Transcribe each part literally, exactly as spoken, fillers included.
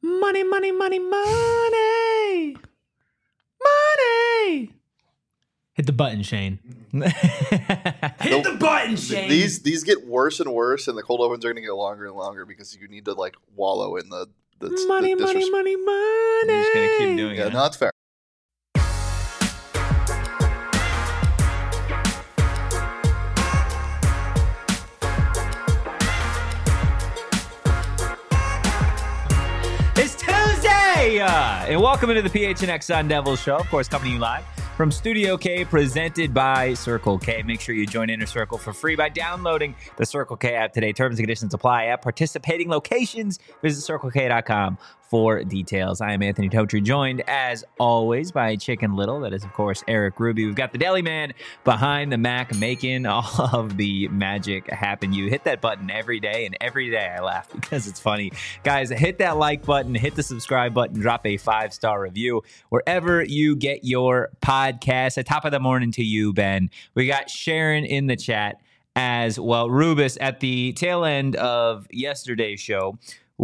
Money, money, money, money. Money. Hit the button, Shane. Hit the button, Shane. These these get worse and worse, and the cold opens are going to get longer and longer because you need to like wallow in the, the money, the money, money, money. I'm just going to keep doing Yeah, it. no, that's fair. It's Tuesday! Uh, and welcome into the P H N X Sun Devils show. Of course, coming to you live from Studio K, presented by Circle K. Make sure you join Inner Circle for free by downloading the Circle K app today. Terms and conditions apply at participating locations. Visit circle k dot com for details. I am Anthony Totri, joined as always by Chicken Little. That is, of course, Eric Ruby. We've got the Deli Man behind the Mac making all of the magic happen. You hit that button every day, and every day I laugh because it's funny. Guys, hit that like button, hit the subscribe button, drop a five-star review wherever you get your podcast. At top of the morning to you, Ben. We got Sharon in the chat as well. Rubus, at the tail end of yesterday's show,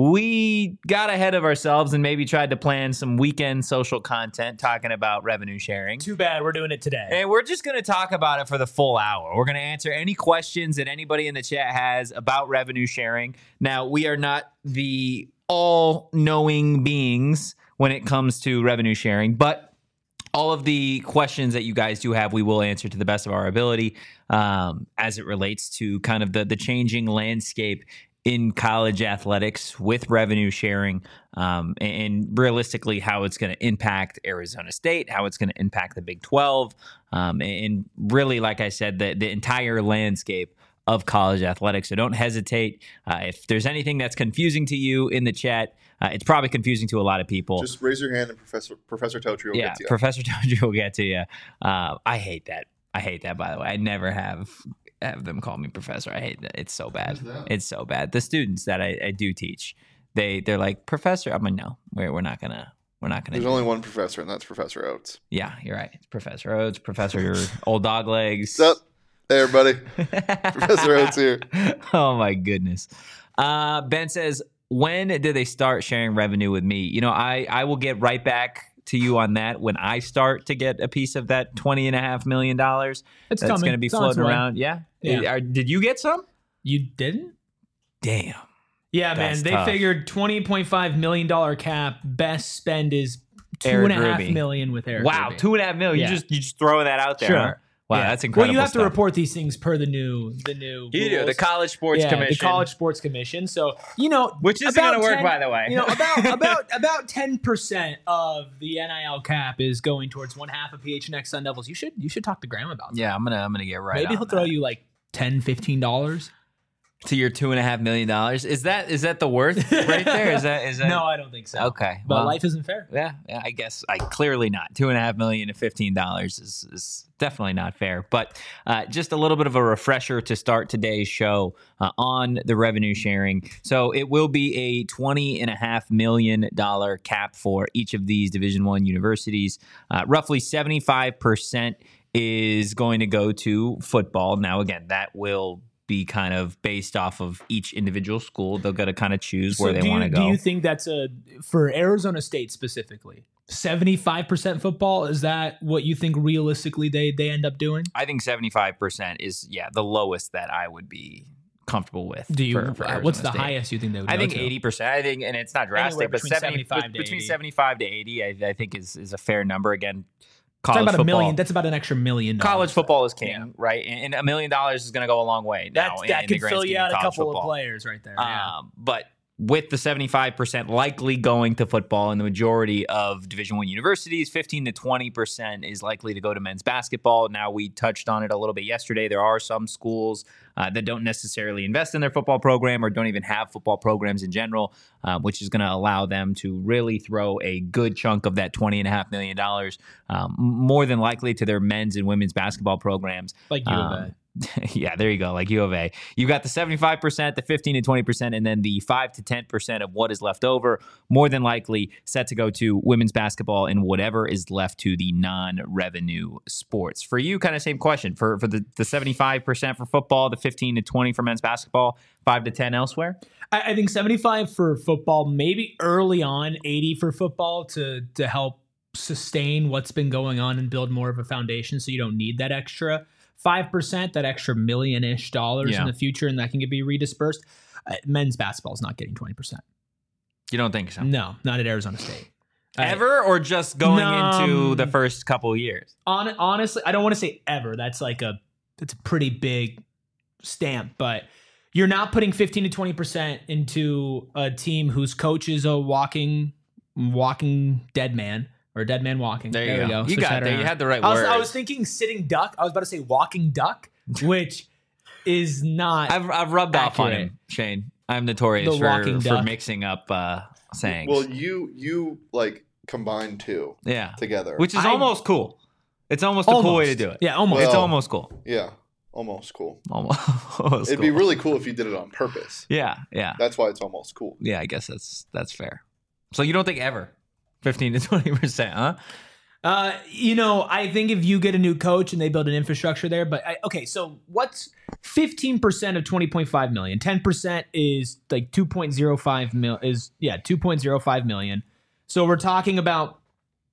we got ahead of ourselves and maybe tried to plan some weekend social content talking about revenue sharing. Too bad we're doing it today. And we're just going to talk about it for the full hour. We're going to answer any questions that anybody in the chat has about revenue sharing. Now, we are not the all-knowing beings when it comes to revenue sharing, but all of the questions that you guys do have, we will answer to the best of our ability um, as it relates to kind of the, the changing landscape in college athletics with revenue sharing, um, and realistically how it's going to impact Arizona State, how it's going to impact the Big twelve, um, and really, like I said, the, the entire landscape of college athletics. So don't hesitate. Uh, if there's anything that's confusing to you in the chat, uh, it's probably confusing to a lot of people. Just raise your hand and Professor Professor Totri will yeah, get to you. Professor Totri will get to you. Uh, I hate that. I hate that, by the way. I never have have them call me professor. I hate that. It's so bad. It's so bad. The students that I, I do teach, they they're like, professor. I'm like, no, we're we're not gonna we're not gonna. There's do only it. one professor, and that's Professor Oates. Yeah, you're right. It's Professor Oates, Professor Old Dog Legs. What's up? Hey, everybody. Professor Oates here. Oh my goodness. Uh, Ben says, when did they start sharing revenue with me? You know, I I will get right back to you on that when I start to get a piece of that twenty and a half million dollars. It's that's going to be It's on its floating way. around. Yeah. Yeah. Are- did you get some? You didn't? Damn. Yeah, That's man. They tough. figured twenty point five million dollars cap. Best spend is two Eric and a half Ruby. million with Eric. Wow, Ruby. two and a half million. Yeah. You just you just throwing that out there. Sure. Huh? Wow, Yeah. that's incredible. Well, you have to stuff. report these things per the new the new You do the rules. College Sports yeah, Commission, the College Sports Commission. So you know, which isn't about going to work, ten by the way. You know, about about about ten percent of the N I L cap is going towards one half of P H N X Sun Devils. You should you should talk to Graham about that. Yeah, I'm gonna I'm gonna get right. Maybe on he'll throw that. you like ten, fifteen dollars. to your two and a half million dollars. Is that is that the worth right there? Is that is that No, I don't think so. okay? But well, life isn't fair. yeah, yeah, I guess I clearly not. Two and a half million to fifteen dollars is is definitely not fair. But uh, just a little bit of a refresher to start today's show uh, on the revenue sharing. So it will be a twenty and a half million dollar cap for each of these Division One universities. Uh, roughly seventy five percent is going to go to football. Now, again, that will be kind of based off of each individual school. They're going to kind of choose where So they do want to you- go. Do you think that's a for Arizona State specifically? seventy-five percent football, is that what you think realistically they they end up doing? I think seventy-five percent is, yeah, the lowest that I would be comfortable with. Do you for, for uh, what's Arizona the State. highest you think they would I go think to? eighty percent. I think, and it's not Anywhere drastic, but between seventy, seventy-five to between eighty. seventy-five to eighty, I, I think is is a fair number. Again, Talking college about football. a million, that's about an extra million dollars. College football is king, Yeah. right? And, and a million dollars is going to go a long way now. That in, that in the could grand fill scheme you of out a college couple football. of players right there. Yeah. Um, but with the seventy-five percent likely going to football and the majority of Division One universities, fifteen to twenty percent is likely to go to men's basketball. Now, we touched on it a little bit yesterday. There are some schools uh, that don't necessarily invest in their football program or don't even have football programs in general, uh, which is going to allow them to really throw a good chunk of that twenty and a half million dollars, um, more than likely to their men's and women's basketball programs. Like U of A. Um, yeah, there you go. Like U of A, you got the seventy-five percent, the fifteen to twenty percent, and then the five to ten percent of what is left over, more than likely set to go to women's basketball and whatever is left to the non-revenue sports. For you, kind of same question. For for the, the seventy-five percent for football, the fifteen to twenty for men's basketball, five to ten elsewhere? I, I think seventy-five for football, maybe early on, eighty for football to to help sustain what's been going on and build more of a foundation so you don't need that extra five percent, that extra million-ish dollars Yeah. in the future, and that can be redispersed. Uh, men's basketball is not getting twenty percent. You don't think so? No, not at Arizona State. Uh, Ever, or just going No, into um, the first couple of years? On, honestly, I don't want to say ever. That's like a, that's a pretty big stamp, but you're not putting fifteen to twenty percent into a team whose coach is a walking, walking dead man. Or dead man walking. There you we go. You Switch got that there. You around. had the right I was, word. I was thinking sitting duck. I was about to say walking duck, which is not. I've I've rubbed off on accurate. him, Shane. I'm notorious The for, walking for duck. mixing up uh, sayings. Well, you you like combine two yeah, together. which is I- almost cool. It's almost a cool way to Almost. do it. Yeah, almost. It's Well- almost cool. yeah, almost cool. Almost. almost It'd be cool. really cool if you did it on purpose. Yeah, yeah, That's why it's almost cool. yeah. I guess that's that's fair. So you don't think ever fifteen to twenty percent, huh? Uh, you know, I think if you get a new coach and they build an infrastructure there, but I, okay, so what's fifteen percent of twenty point five million? ten percent is like two point oh five mil is yeah, two point oh five million. So we're talking about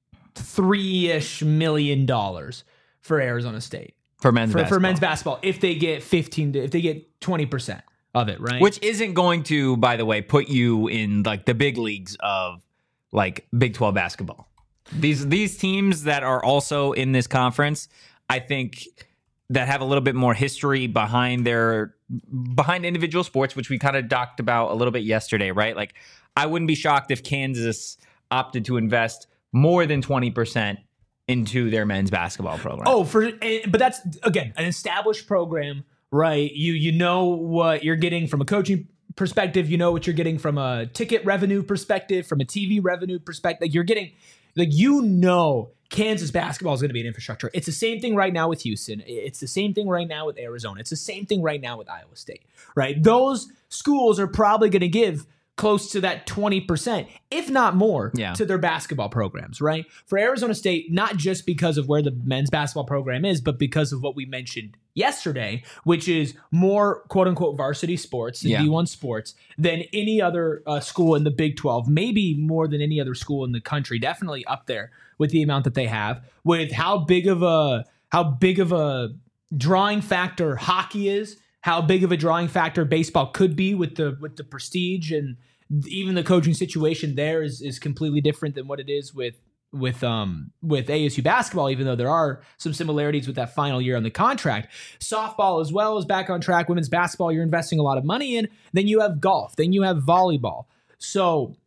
three-ish million dollars for Arizona State. For men's For, basketball. for men's basketball, if they get fifteen to if they get twenty percent of it, right? Which isn't going to, by the way, put you in like the big leagues of like Big twelve basketball. These these teams that are also in this conference, I think, that have a little bit more history behind their behind individual sports, which we kind of talked about a little bit yesterday, right? Like, I wouldn't be shocked if Kansas opted to invest more than twenty percent into their men's basketball program. Oh, for eh, but that's again an established program, right? You you know what you're getting from a coaching perspective. You know what you're getting from a ticket revenue perspective, from a T V revenue perspective. Like you're getting, like you know, Kansas basketball is going to be an infrastructure. It's the same thing right now with Houston. It's the same thing right now with Arizona. It's the same thing right now with Iowa State, right? Those schools are probably going to give close to that twenty percent, if not more, Yeah. to their basketball programs, right? For Arizona State, not just because of where the men's basketball program is, but because of what we mentioned yesterday, which is more quote-unquote varsity sports and Yeah. D one sports than any other uh, school in the Big twelve, maybe more than any other school in the country, definitely up there with the amount that they have, with how big of a how big of a drawing factor hockey is, how big of a drawing factor baseball could be with the with the prestige, and even the coaching situation there is is completely different than what it is with with um with A S U basketball, even though there are some similarities with that final year on the contract. Softball as well is back on track. Women's basketball, you're investing a lot of money in. Then you have golf. Then you have volleyball. So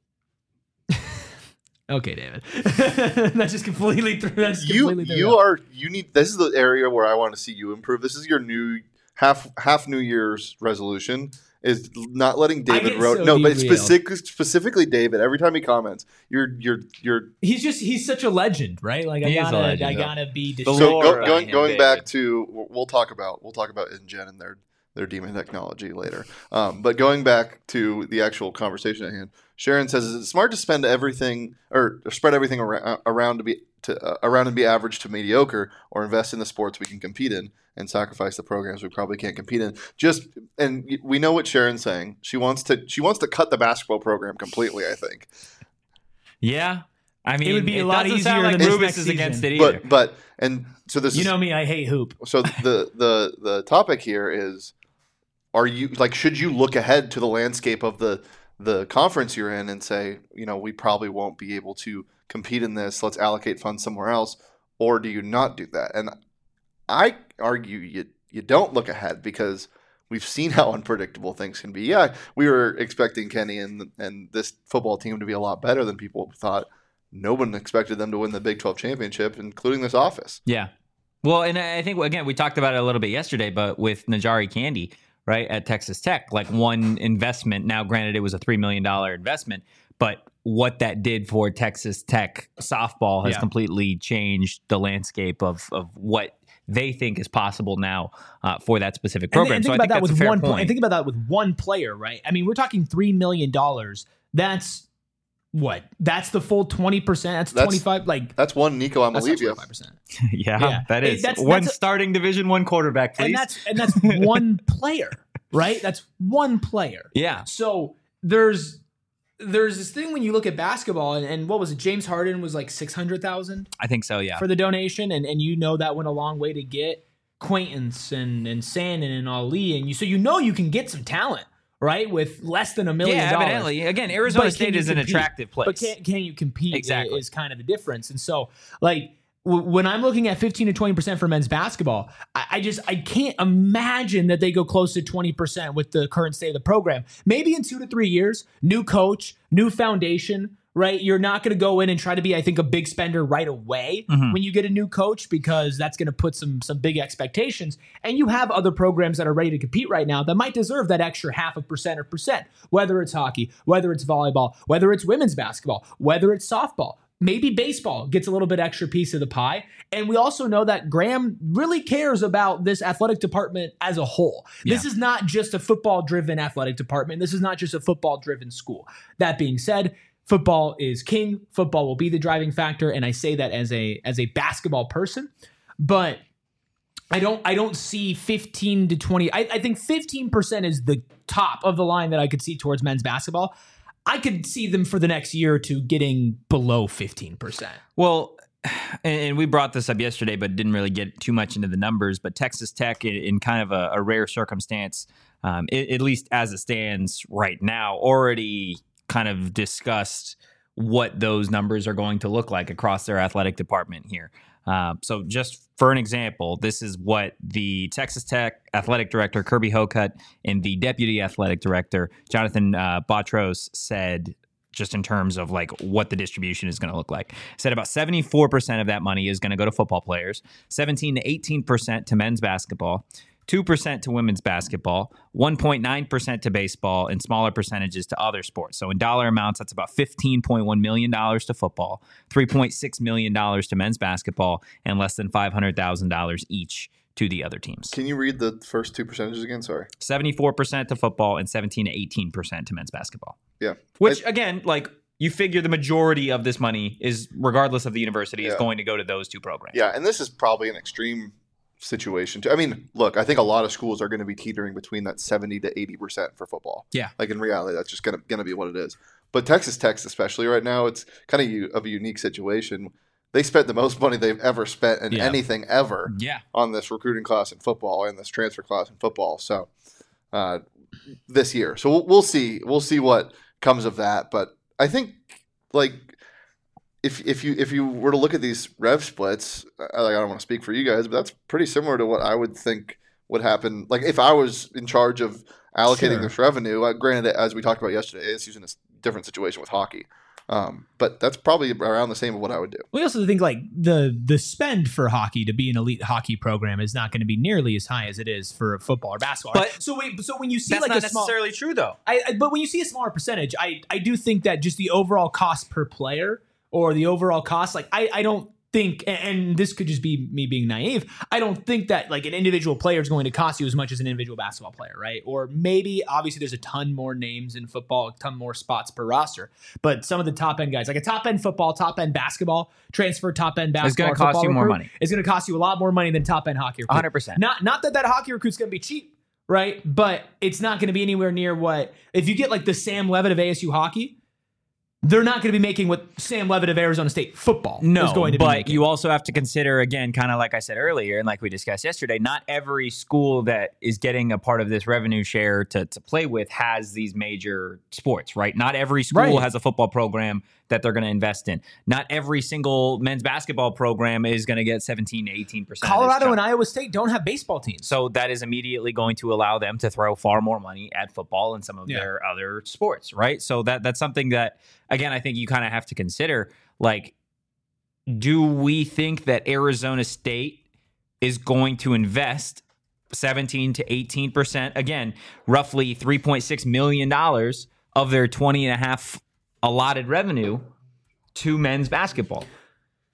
okay, David. That's just completely through. That's You completely threw you it out. are you need this is the area where I want to see you improve. This is your new half half New Year's resolution is not letting David get Road so no, but derailed. specifically specifically David. Every time he comments, you're you're you're He's just he's such a legend, right? Like I He is a gotta legend, I yeah. gotta be The so distracted. lore go, behind going him, going David. back to we'll talk about we'll talk about InGen and their their demon technology later. Um, but going back to the actual conversation at hand, Sharon says, "Is it smart to spend everything or spread everything around, around to be to uh, around and be average to mediocre, or invest in the sports we can compete in and sacrifice the programs we probably can't compete in?" Just and y- we know what Sharon's saying. She wants to she wants to cut the basketball program completely. I think, Yeah. I mean, would be a lot doesn't sound easier like than this Rubis next is against season. it either. but but and so this You is know me, I hate hoop. so the the the topic here is, are you like should you look ahead to the landscape of the the conference you're in and say, you know, we probably won't be able to compete in this, let's allocate funds somewhere else, or do you not do that? And I argue you you don't look ahead, because we've seen how unpredictable things can be. Yeah, we were expecting Kenny and and this football team to be a lot better than people thought. No one expected them to win the Big twelve championship, including this office. Yeah. Well, and I think, again, we talked about it a little bit yesterday, but with Najari Candy, right, at Texas Tech, like one investment, now granted it was a three million dollars investment, but what that did for Texas Tech softball has Yeah. completely changed the landscape of, of what they think is possible now uh, for that specific And, program. and so think I about think that that's a with fair one. point. And think about that with one player, right? I mean, we're talking three million dollars. That's what? That's the full twenty percent. That's, That's- twenty-five. Like That's one Nico that's not Amalivia. twenty-five percent. yeah, Yeah. that Hey, is that's- one that's a- starting Division One quarterback, please. And that's and that's one player, right? That's one player. yeah, So there's there's this thing when you look at basketball, and, and what was it? James Harden was like six hundred thousand I think so. Yeah, for the donation, and and you know that went a long way to get Quaintance and and Sandin and Ali, and you so you know you can get some talent, right, with less than a million yeah. dollars. Evidently, again, Arizona But can State you is an compete? attractive place. But can can you compete? Exactly. Is kind of the difference. And so, like w- when I'm looking at fifteen to twenty percent for men's basketball, I, I just I can't imagine that they go close to twenty percent with the current state of the program. Maybe in two to three years, new coach, new foundation. Right, you're not going to go in and try to be, I think, a big spender right away Mhm. when you get a new coach, because that's going to put some some big expectations. And you have other programs that are ready to compete right now that might deserve that extra half a percent or percent, whether it's hockey, whether it's volleyball, whether it's women's basketball, whether it's softball. Maybe baseball gets a little bit extra piece of the pie. And we also know that Graham really cares about this athletic department as a whole. This is not just a football-driven athletic department. This is not just a football-driven school. That being said, football is king. Football will be the driving factor, and I say that as a as a basketball person. But I don't I don't see fifteen to twenty. I, I think fifteen percent is the top of the line that I could see towards men's basketball. I could see them for the next year or two getting below fifteen percent. Well, and, and we brought this up yesterday, but didn't really get too much into the numbers. But Texas Tech, in, in kind of a, a rare circumstance, um, it, at least as it stands right now, already kind of discussed what those numbers are going to look like across their athletic department here. Uh, so just for an example, this is what the Texas Tech athletic director, Kirby Hocutt, and the deputy athletic director, Jonathan uh, Botros, said just in terms of like what the distribution is going to look like. Said about seventy-four percent of that money is going to go to football players, seventeen to eighteen percent to men's basketball, two percent to women's basketball, one point nine percent to baseball, and smaller percentages to other sports. So in dollar amounts, that's about fifteen point one million dollars to football, three point six million dollars to men's basketball, and less than five hundred thousand dollars each to the other teams. Can you read the first two percentages again? Sorry. seventy-four percent to football and seventeen to eighteen percent to men's basketball. Yeah. Which, again, like you figure the majority of this money is, regardless of the university, is Yeah. going to go to those two programs. Yeah, and this is probably an extreme situation too. I mean, look, I think a lot of schools are going to be teetering between that seventy to eighty percent for football. Yeah. Like in reality, that's just going to going to be what it is. But Texas Tech, especially right now, it's kind of u- of a unique situation. They spent the most money they've ever spent in Yeah. anything ever Yeah. on this recruiting class in football and this transfer class in football. So uh, this year, so we'll, we'll see. We'll see what comes of that. But I think like if if you if you were to look at these rev splits, I, like, I don't want to speak for you guys, but that's pretty similar to what I would think would happen. Like if I was in charge of allocating Sure. this revenue, uh, granted, as we talked about yesterday, it's using a s- different situation with hockey. Um, but that's probably around the same of what I would do. We also think like the the spend for hockey to be an elite hockey program is not going to be nearly as high as it is for football or basketball. right? But- so wait, so when you see That's like not a small, necessarily true, though. I, I but when you see a smaller percentage, I I do think that just the overall cost per player or the overall cost, like I I don't think, and- and this could just be me being naive, I don't think that like an individual player is going to cost you as much as an individual basketball player, right? Or maybe obviously there's a ton more names in football, a ton more spots per roster, but some of the top end guys, like a top end football, top end basketball transfer, top end It's basketball, going to cost football you more recruit money. is going to cost you a lot more money than top end hockey recruit. one hundred percent. Not not that that hockey recruit's going to be cheap, right? But it's not going to be anywhere near what if you get like the Sam Levitt of A S U hockey. They're not going to be making what Sam Levitt of Arizona State football No, is going to be but making. you also have to consider, again, kind of like I said earlier, and like we discussed yesterday, not every school that is getting a part of this revenue share to, to play with has these major sports, right? Not every school Right. has a football program that they're going to invest in. Not every single men's basketball program is going to get seventeen to eighteen percent. Colorado and Iowa State don't have baseball teams. So that is immediately going to allow them to throw far more money at football and some of Yeah. their other sports, right? So that that's something that, again, I think you kind of have to consider. Like, do we think that Arizona State is going to invest seventeen to eighteen percent, again, roughly three point six million dollars of their twenty and a half allotted revenue to men's basketball?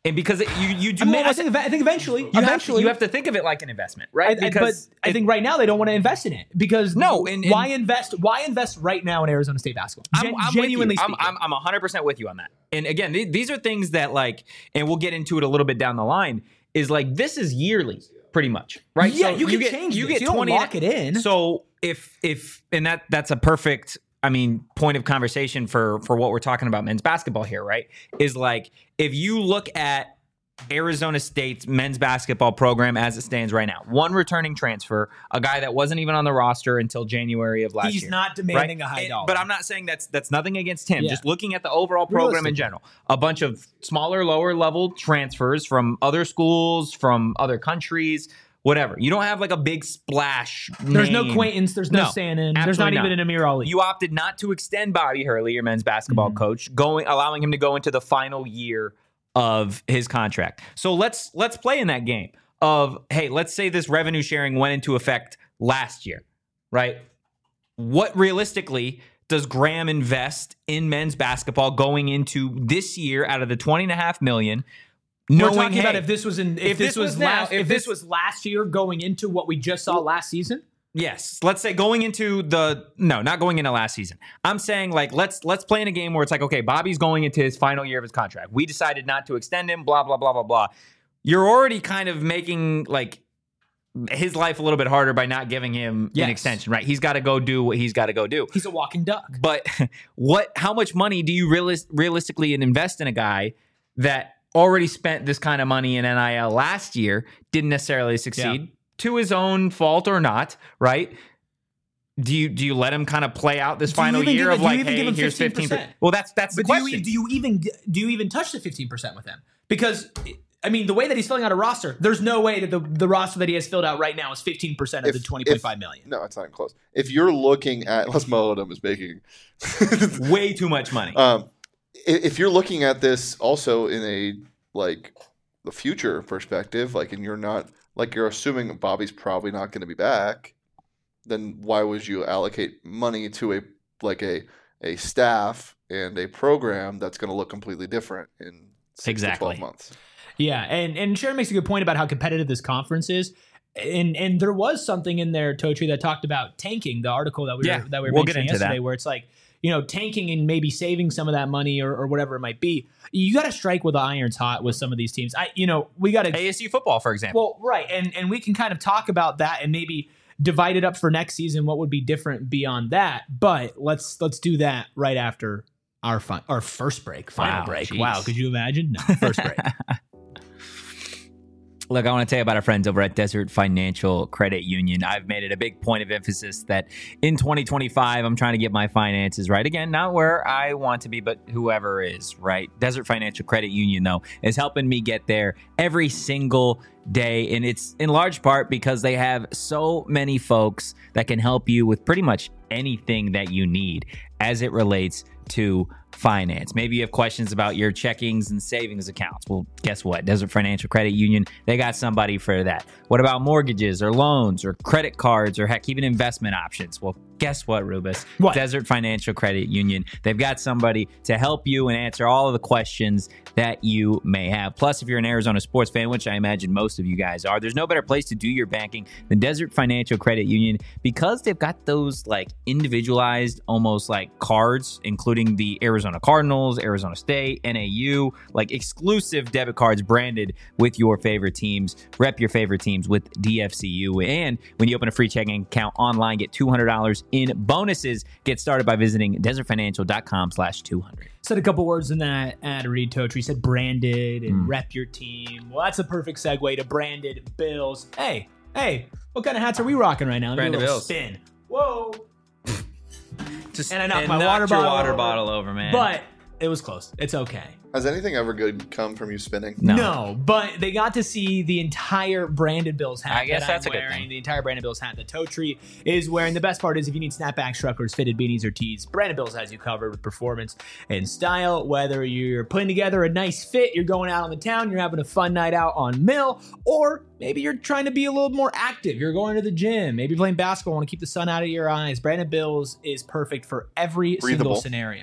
And because it, you you do, I, mean, I almost, think I think eventually, you have to- eventually, you have to think of it like an investment, right? I, I, but I think right now they don't want to invest in it because No, and- and- why invest? Why invest right now in Arizona State basketball? I'm, Gen- I'm genuinely with you. I'm, speaking, I'm I'm one hundred percent with you on that. And again, th- these are things that like, and we'll get into it a little bit down the line. Is like this is yearly, pretty much, right? Yeah, So you can get, change You this. get You don't twenty lock it in. So if if and that that's a perfect, I mean, point of conversation for for what we're talking about men's basketball here, right? Is like if you look at Arizona State's men's basketball program as it stands right now. One returning transfer, a guy that wasn't even on the roster until January of last he's year. not demanding right? a high And- dollar. But I'm not saying that's that's nothing against him. Yeah. Just looking at the overall program in Realistically. general. A bunch of smaller, lower level transfers from other schools, from other countries, whatever. You don't have like a big splash. There's no name. Quaintance. There's no, No, Sanin. There's not, absolutely even an Amir Ali. You opted not to extend Bobby Hurley, your men's basketball Mm-hmm. coach, going allowing him to go into the final year of his contract. So let's let's play in that game of, hey, let's say this revenue sharing went into effect last year, right? What realistically does Graham invest in men's basketball going into this year out of the twenty and a half million? We're Knowing, talking hey, about if this was in if, if this, this was, was now- last if if this, this- was last year going into what we just saw last season. Yes, let's say going into the no, not going into last season. I'm saying like let's let's play in a game where it's like, okay, Bobby's going into his final year of his contract. We decided not to extend him, blah blah blah blah blah. You're already kind of making like his life a little bit harder by not giving him Yes. an extension, right? He's got to go do what he's got to go do. He's a walking duck. But what how much money do you realis- realistically invest in a guy that already spent this kind of money in N I L last year, didn't necessarily succeed? Yeah. To his own fault or not, right? Do you do you let him kind of play out this Do you final even year give- of do you like, even hey, give him here's fifteen fifteen percent? Well, that's that's the But do question. you, do you even do you even touch the fifteen percent with him? Because I mean, the way that he's filling out a roster, there's no way that the, the roster that he has filled out right now is fifteen percent of If- the twenty point five if- million. No, it's not even close. If you're looking at, unless Mo Odom is making, Way too much money. um, i- if you're looking at this also in a like the future perspective, like, and you're not like you're assuming Bobby's probably not going to be back, then why would you allocate money to a like a a staff and a program that's going to look completely different in six Exactly. to twelve months? Yeah, and and Sharon makes a good point about how competitive this conference is. And and there was something in there, Totri, that talked about tanking, the article that we Yeah, were that we were we'll get mentioning into that. yesterday, where it's like, you know, tanking and maybe saving some of that money or, or whatever it might be. You got to strike with the irons hot with some of these teams. I, you know, we got to A S U football, for example. well, right, and and we can kind of talk about that and maybe divide it up for next season. What would be different beyond that? But let's let's do that right after our fun, our first break, final Wow, break. jeez. Wow, could you imagine? No, first break. Look, I want to tell you about our friends over at Desert Financial Credit Union. I've made it a big point of emphasis that in twenty twenty-five, I'm trying to get my finances right. Again, not where I want to be, but whoever is, right? Desert Financial Credit Union, though, is helping me get there every single day. And it's in large part because they have so many folks that can help you with pretty much anything that you need as it relates to finance. Maybe you have questions about your checkings and savings accounts. Well, guess what? Desert Financial Credit Union, they got somebody for that. What about mortgages or loans or credit cards or heck, even investment options? Well, guess what, Rubus? What? Desert Financial Credit Union. They've got somebody to help you and answer all of the questions that you may have. Plus, if you're an Arizona sports fan, which I imagine most of you guys are, there's no better place to do your banking than Desert Financial Credit Union because they've got those like individualized, almost like cards, including the Arizona Cardinals, Arizona State, N A U, like exclusive debit cards branded with your favorite teams. Rep your favorite teams with D F C U. And when you open a free checking account online, get two hundred dollars in bonuses. Get started by visiting desertfinancial.com slash 200. Said a couple words in that ad read, Totri. Said branded and Mm. rep your team. Well, that's a perfect segue to branded Bills. Hey, hey, what kind of hats are we rocking right now? Let me do a Branded little Bills. Spin. Whoa. Just And I knocked and my knocked water your bottle water over. bottle over, man. But it was close. It's okay. Has anything ever good come from you spinning? No. but they got to see the entire Branded Bills hat. I guess that that's I'm a good wearing, thing. The entire Branded Bills hat that Totri is wearing. The best part is if you need snapbacks, truckers, fitted beanies, or tees, Branded Bills has you covered with performance and style. Whether you're putting together a nice fit, you're going out on the town, you're having a fun night out on Mill, or maybe you're trying to be a little more active. You're going to the gym, maybe playing basketball, want to keep the sun out of your eyes. Branded Bills is perfect for every Breathable. single scenario.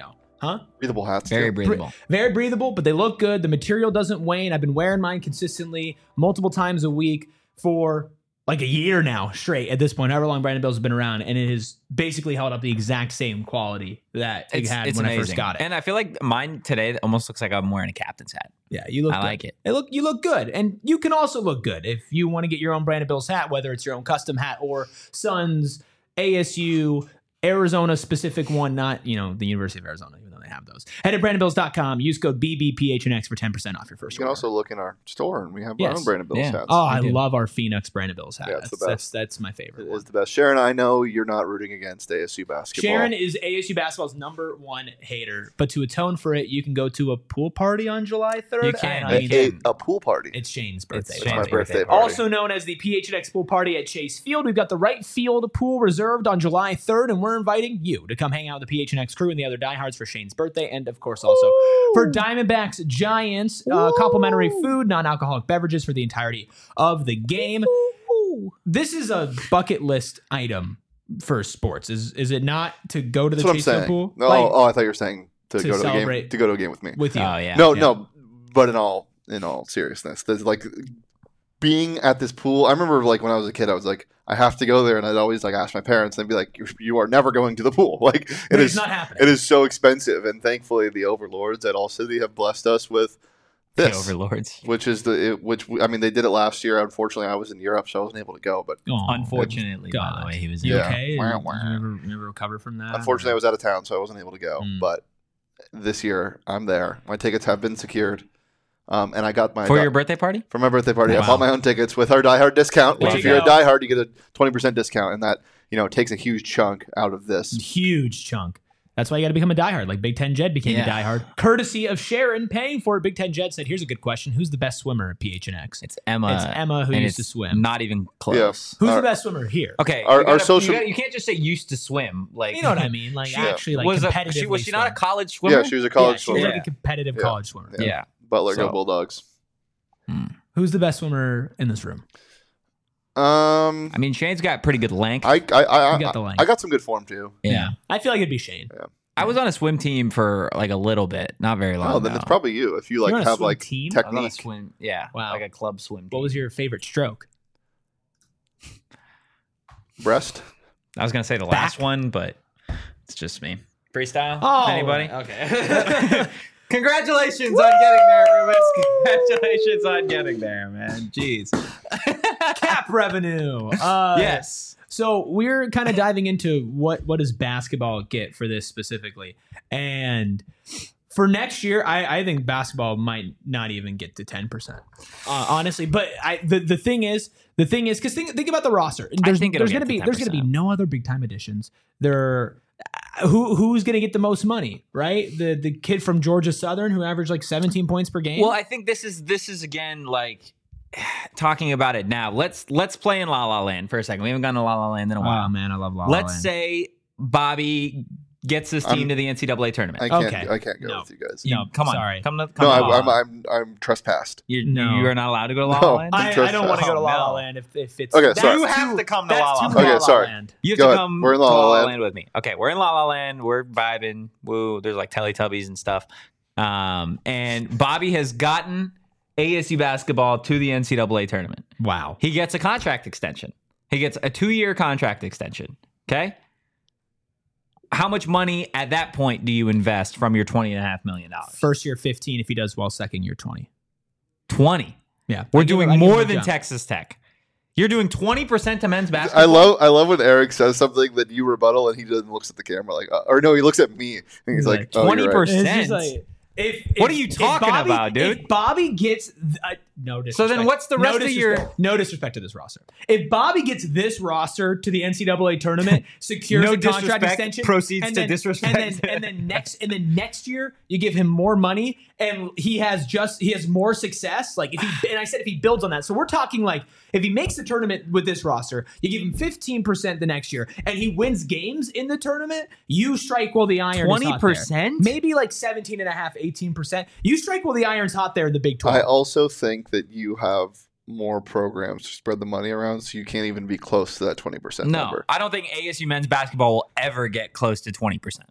Huh? Breathable hats. Very too. breathable. Very breathable, but they look good. The material doesn't wane. I've been wearing mine consistently multiple times a week for like a year now straight at this point, however long Brandon Bill's been around, and it has basically held up the exact same quality that it It's, had it's when amazing. I first got it. And I feel like mine today almost looks like I'm wearing a captain's hat. Yeah, you look I good. like it. It look you look good. And you can also look good if you want to get your own Brandon Bill's hat, whether it's your own custom hat or Suns, A S U, Arizona specific one, not, you know, the University of Arizona, even though they have those. Head to brandon bills dot com. Use code B B P H N X for ten percent off your first You can order. also look in our store, and we have our Yes. own Brandon Bills Yeah. hats. Oh, I do. love our Phoenix Brandon Bills hat. Yeah, it's that's, the that's best. that's my favorite It one. is the best. Sharon, I know you're not rooting against A S U basketball. Sharon is A S U basketball's number one hater, but to atone for it, you can go to a pool party on July third. You can. and a, I you mean, a, a pool party. it's Shane's birthday. It's It's my Shane's birthday birthday. party. Also known as the P H N X Pool Party at Chase Field. We've got the right field pool reserved on July third, and we're inviting you to come hang out with the P H N X crew and the other diehards for Shane's birthday, and of course also for Diamondbacks Giants, uh, complimentary food, non-alcoholic beverages for the entirety of the game. This is a bucket list item for sports, is is it not, to go to the That's what I'm Chase Field saying. pool? No, Like, oh, I thought you were saying to, to go to the game celebrate to go to a game with me. with you. Oh, yeah. no, yeah. no, but in all in all seriousness, there's like being at this pool. I remember like when I was a kid, I was like, I have to go there, and I'd always like ask my parents, and they'd be like, "You, you are never going to the pool." Like it But is it's not happening. It is so expensive, and thankfully, the overlords at All City have blessed us with The this, overlords. which is the it, which I mean they did it last year. Unfortunately, I was in Europe, so I wasn't able to go. But Aw, Unfortunately, by God. the way, he was You Yeah. okay? Wah, Did you wah. ever, you ever recover from that? unfortunately, I was out of town, so I wasn't able to go. Mm. But this year, I'm there. My tickets have been secured, um, and I got my for your birthday party. for my birthday party. I Wow. bought my own tickets with our Die Hard discount. Which, There if you you're go. a Die Hard, you get a twenty percent discount, and that you know takes a huge chunk out of this. Huge chunk. That's why you got to become a diehard, like Big Ten Jed became Yeah. a diehard, courtesy of Sharon paying for it. Big Ten Jed said, "Here's a good question: Who's the best swimmer at P H N X?" It's Emma. It's Emma who and used to it's swim. Not even close. Who's Our- the best swimmer here? Okay, Our- you our gotta- social- You, gotta- you can't just say used to swim. Like You know what I mean? Like She actually, like was a, competitively. she was she not a swim. college swimmer? Yeah, she was a college yeah, she was swimmer. like a competitive Yeah. college swimmer. Yeah. Yeah. Butler, So- go Bulldogs. Who's the best swimmer in this room? Um, I mean, Shane's got pretty good length. I I I, You got the I, length. I got some good form too. yeah. I feel like it'd be Shane. I was on a swim team for like a little bit, not very long. Oh, then though. it's probably you if you like You're on a have swim like team? I was on a technique. swim. Yeah, Wow. like a club swim team. What was your favorite stroke? Breast. I was gonna say the Back? last one, but it's just me. Freestyle? Oh, Anybody? Okay. Congratulations on getting there, Rubens. Congratulations on getting there, man. Jeez. Cap revenue. Uh, Yes. So we're kind of diving into what what does basketball get for this specifically, and for next year, I, I think basketball might not even get to ten percent, uh, honestly. But I the, the thing is, the thing is, because think think about the roster. There's, think it'll there's get gonna to be there's gonna be ten percent. no other big time additions. There, who who's gonna get the most money, right? The the kid from Georgia Southern who averaged like seventeen points per game. Well, I think this is this is again like talking about it now. Let's let's play in La La Land for a second. We haven't gone to La La Land in a while. oh man, I love La La Let's Land. say Bobby gets this team I'm- to the N C double A tournament. I can't. Okay. I can't go No. with you guys. You- No, come on, sorry. come to come No, to I, La I'm, La. I'm I'm trespassed. You, No. you are not allowed to go to La No. La Land. I, I don't want to go to La La No. Land if, if it's Okay, that's sorry. You have too- to come to that's La La too Land. Okay, La La sorry. Land. You have Go to ahead. come We're in La to La La La Land. Land with me. Okay, we're in La La Land. We're vibing. Woo! There's like Teletubbies and stuff. Um, and Bobby has gotten A S U basketball to the N C double A tournament. Wow. He gets a contract extension. He gets a two-year contract extension. Okay. How much money at that point do you invest from your twenty and a half million dollars? First year fifteen. If he does well, second year twenty. twenty. Yeah, We're I give him- doing I give him more a than jump. Texas Tech. You're doing twenty percent to men's basketball. I love I love when Eric says something that you rebuttal and he doesn't looks at the camera like uh, or no he looks at me and he's, He's like, like, oh, you're right. twenty percent. It's just like, if, What if- are you if talking Bobby- about, dude? If Bobby gets th- uh, no disrespect. So then what's the rest no of your- disrespect- no disrespect to this roster? If Bobby gets this roster to the N C double A tournament, secures No a contract disrespect, extension, proceeds and to then, disrespect. and then, and then next and then next year you give him more money and he has just he has more success. Like if he and I said if he builds on that, so we're talking like if he makes the tournament with this roster, you give him fifteen percent the next year, and he wins games in the tournament, you strike while the iron is hot there. twenty percent? Maybe like seventeen and a half, eighteen percent. You strike while the iron's hot there in the Big twelve. I also think that you have more programs to spread the money around, so you can't even be close to that twenty percent No, number. I don't think A S U men's basketball will ever get close to twenty percent.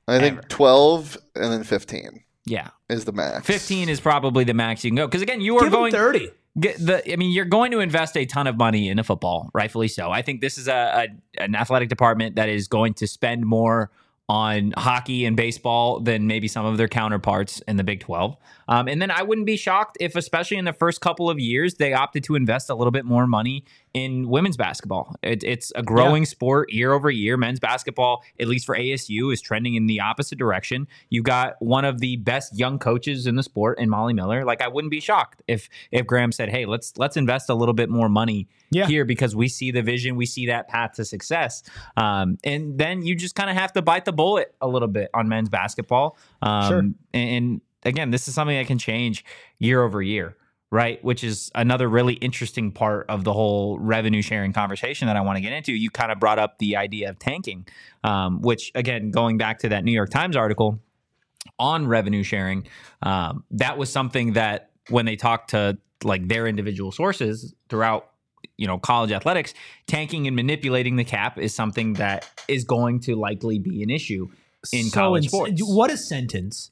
I think Ever. twelve and then fifteen Yeah. is the max. fifteen is probably the max you can go. Because again, you are Give them going thirty. Get the, I mean, you're going to invest a ton of money into football, rightfully so. I think this is a, a an athletic department that is going to spend more on hockey and baseball than maybe some of their counterparts in the Big twelve. Um, and then I wouldn't be shocked if, especially in the first couple of years, they opted to invest a little bit more money in women's basketball. It, it's a growing yeah. sport year over year. Men's basketball, at least for A S U, is trending in the opposite direction. You've got one of the best young coaches in the sport in Molly Miller. Like, I wouldn't be shocked if if Graham said, hey, let's let's invest a little bit more money yeah. here because we see the vision, we see that path to success. Um, and then you just kind of have to bite the bullet a little bit on men's basketball. Um, sure. And, and again, this is something that can change year over year, right? Which is another really interesting part of the whole revenue sharing conversation that I want to get into. You kind of brought up the idea of tanking, um, which, again, going back to that New York Times article on revenue sharing, um, that was something that when they talked to like their individual sources throughout, you know, college athletics, tanking and manipulating the cap is something that is going to likely be an issue in so college ins- sports. What a sentence.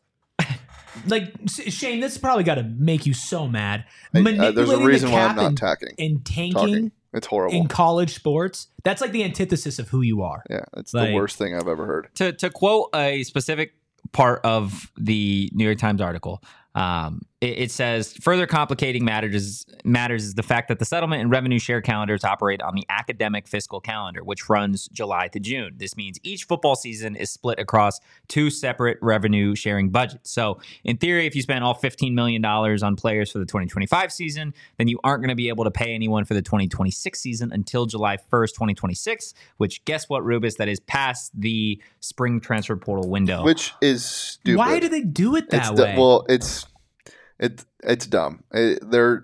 Like, Shane, this is probably got to make you so mad. I, uh, Manipulating there's a reason the why cap I'm not and, tacking. and tanking Talking. It's horrible. in college sports, that's like the antithesis of who you are. Yeah, it's Like- the worst thing I've ever heard. To to quote a specific part of the New York Times article, um, it, it says further complicating matters matters is the fact that the settlement and revenue share calendars operate on the academic fiscal calendar, which runs July to June. This means each football season is split across two separate revenue sharing budgets. So in theory, if you spend all fifteen million dollars on players for the twenty twenty-five season, then you aren't going to be able to pay anyone for the twenty twenty-six season until July first, twenty twenty-six, which guess what, Rubus, that is past the spring transfer portal window. Which is stupid. Why do they do it that it's way? du- well, it's it it's dumb. It, they're.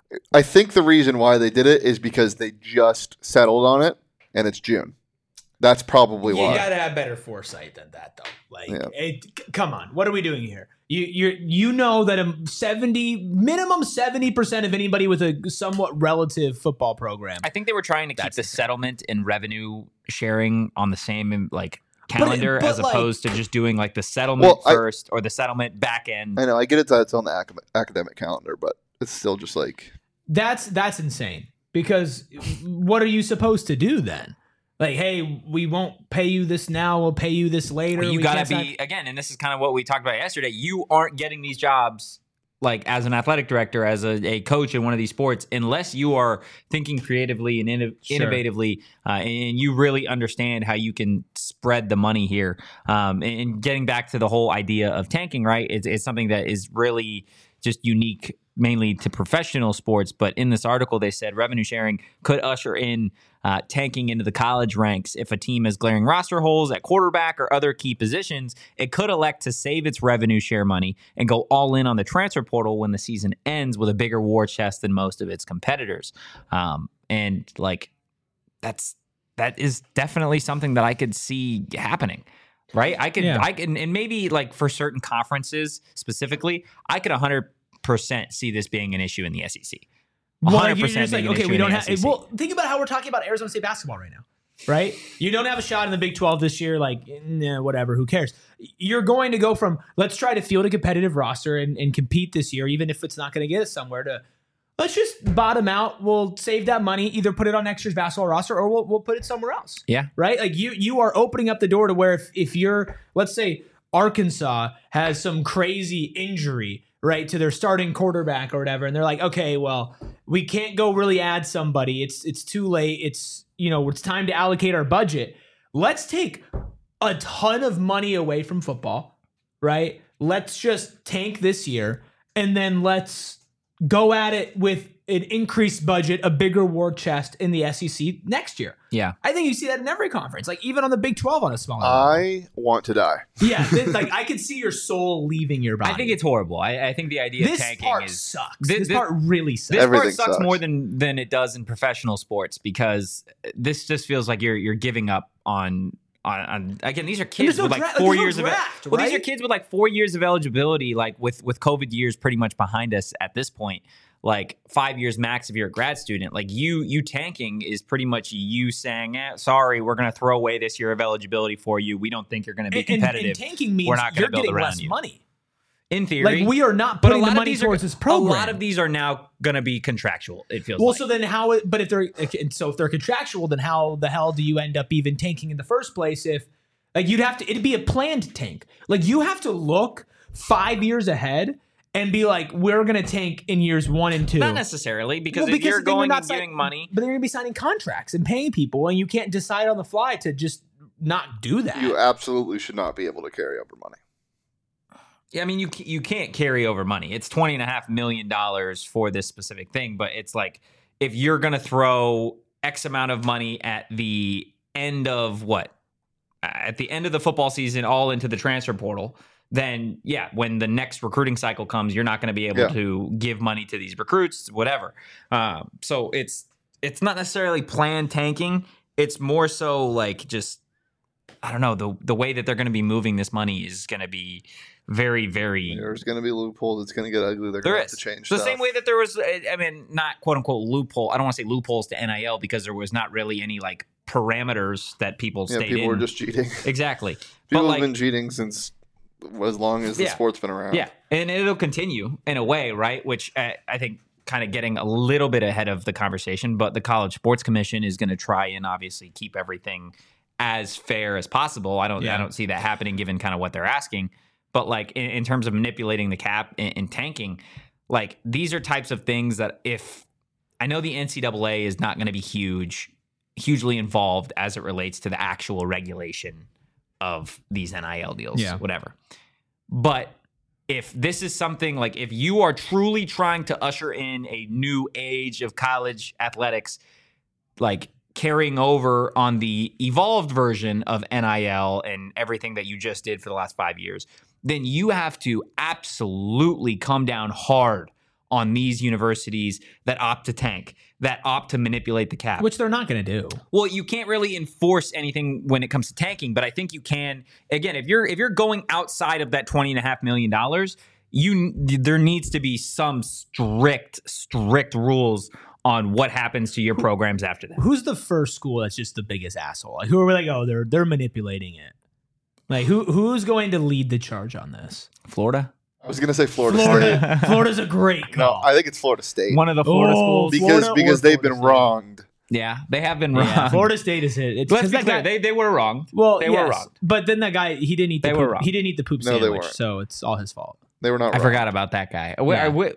I think the reason why they did it is because they just settled on it, and it's June. That's probably you why. gotta have better foresight than that, though. Like, Yeah. it, c- come on, what are we doing here? You you you know that a seventy minimum seventy percent of anybody with a somewhat relative football program. I think they were trying to keep That's the insane. settlement and revenue sharing on the same like calendar but, as like- opposed to just doing like the settlement Well, I- first or the settlement back end. I know. I get it that it's on the acad- academic calendar, but it's still just like That's that's insane because what are you supposed to do then? Like, hey, we won't pay you this now. We'll pay you this later. Well, you We got to can't be, again, and this is kind of what we talked about yesterday. You aren't getting these jobs like as an athletic director, as a, a coach in one of these sports, unless you are thinking creatively and inno- Sure. innovatively, uh, and you really understand how you can spread the money here. Um, and, and getting back to the whole idea of tanking, right? It's, it's something that is really just unique mainly to professional sports. But in this article, they said revenue sharing could usher in uh, tanking into the college ranks. If a team has glaring roster holes at quarterback or other key positions, it could elect to save its revenue share money and go all in on the transfer portal when the season ends with a bigger war chest than most of its competitors. Um, and like that's that is definitely something that I could see happening. Right. I could, Yeah. I can, and maybe like for certain conferences specifically, I could one hundred percent see this being an issue in the S E C. Well, one hundred you're percent just like, being an okay, issue we in don't the have. S E C. Well, think about how we're talking about Arizona State basketball right now, right? You don't have a shot in the Big twelve this year. Like, nah, whatever. Who cares? You're going to go from let's try to field a competitive roster and, and compete this year, even if it's not going to get us somewhere. To let's just bottom out. We'll save that money, either put it on next year's basketball roster, or we'll we'll put it somewhere else. Yeah. Right. Like you you are opening up the door to where if if you're, let's say Arkansas has some crazy injury, right, to their starting quarterback or whatever, and they're like, okay, well, we can't go really add somebody. It's it's too late. It's, you know, it's time to allocate our budget. Let's take a ton of money away from football, right? Let's just tank this year, and then let's go at it with an increased budget, a bigger war chest in the S E C next year. Yeah. I think you see that in every conference, like even on the Big twelve on a smaller level. I want to die. Yeah, this, like I could see your soul leaving your body. I think it's horrible. I, I think the idea this of tanking part is sucks. Thi- This, thi- part really sucks. this Everything part sucks, sucks. more than than it does in professional sports because this just feels like you're you're giving up on. On, on again, these are kids no with like dra- four there's no years of draft, well, these are right? kids with like four years of eligibility, like with with COVID years pretty much behind us at this point. like five years max if you're a grad student. Like you, you tanking is pretty much you saying, eh, sorry, we're going to throw away this year of eligibility for you. We don't think you're going to be And, competitive. and tanking means We're not you're gonna build getting around less you. money. In theory. Like we are not but a putting lot the of money these towards are, this program. A lot of these are now going to be contractual, it feels Well, like. so then how? it- But if they're and so if they're contractual, then how the hell do you end up even tanking in the first place? If like you'd have to, it'd be a planned tank. Like you have to look five years ahead and be like, we're gonna tank in years one and two. Not necessarily, because Well, if you're then going not and sign- giving money. but they're gonna be signing contracts and paying people, and you can't decide on the fly to just not do that. You absolutely should not be able to carry over money. Yeah, I mean, you you can't carry over money. It's twenty and a half million dollars for this specific thing, but it's like if you're gonna throw X amount of money at the end of what, at the end of the football season, all into the transfer portal, then yeah, when the next recruiting cycle comes, you're not going to be able Yeah. to give money to these recruits, whatever. Um, so it's it's not necessarily planned tanking. It's more so like just I don't know the the way that they're going to be moving this money is going to be very, very. There's going to be loopholes. It's going to get ugly. They're There going to have is to change the stuff. same way that there was. I mean, not quote unquote loophole. I don't want to say loopholes to N I L because there was not really any like parameters that people yeah, stayed people in. were just cheating. Exactly. People But have like, been cheating since as long as the Yeah. sport's been around. yeah, and it'll continue in a way, right? Which I, I think kind of getting a little bit ahead of the conversation, but the College Sports Commission is going to try and obviously keep everything as fair as possible. I don't, Yeah. I don't see that happening given kind of what they're asking. But like in, in terms of manipulating the cap and, and tanking, like these are types of things that if I know the N C double A is not going to be huge, hugely involved as it relates to the actual regulation of these N I L deals, Yeah. whatever. But if this is something like if you are truly trying to usher in a new age of college athletics, like carrying over on the evolved version of N I L and everything that you just did for the last five years, then you have to absolutely come down hard on these universities that opt to tank, that opt to manipulate the cap. Which they're not going to do. Well, you can't really enforce anything when it comes to tanking, but I think you can. Again, if you're if you're going outside of that twenty and a half million dollars, you there needs to be some strict strict rules on what happens to your programs after that. Who's the first school that's just the biggest asshole? Like who are we like, oh, they're they're manipulating it. Like who who's going to lead the charge on this? Florida, I was going to say Florida, Florida. State. Florida's a great No, call. I think it's Florida State. one of the Florida Oh, schools. because Florida or because they've Florida been State? wronged. Yeah, they have been wrong. Yeah, Florida State is it. It's Let's 'cause be that clear, guy- they they were wrong. well, they yes, were wrong. But then that guy, he didn't eat the They were poop. wrong. He didn't eat the poop No, they sandwich, weren't. so it's all his fault. They were not I wrong. forgot about that guy. Are we, Yeah. are, we,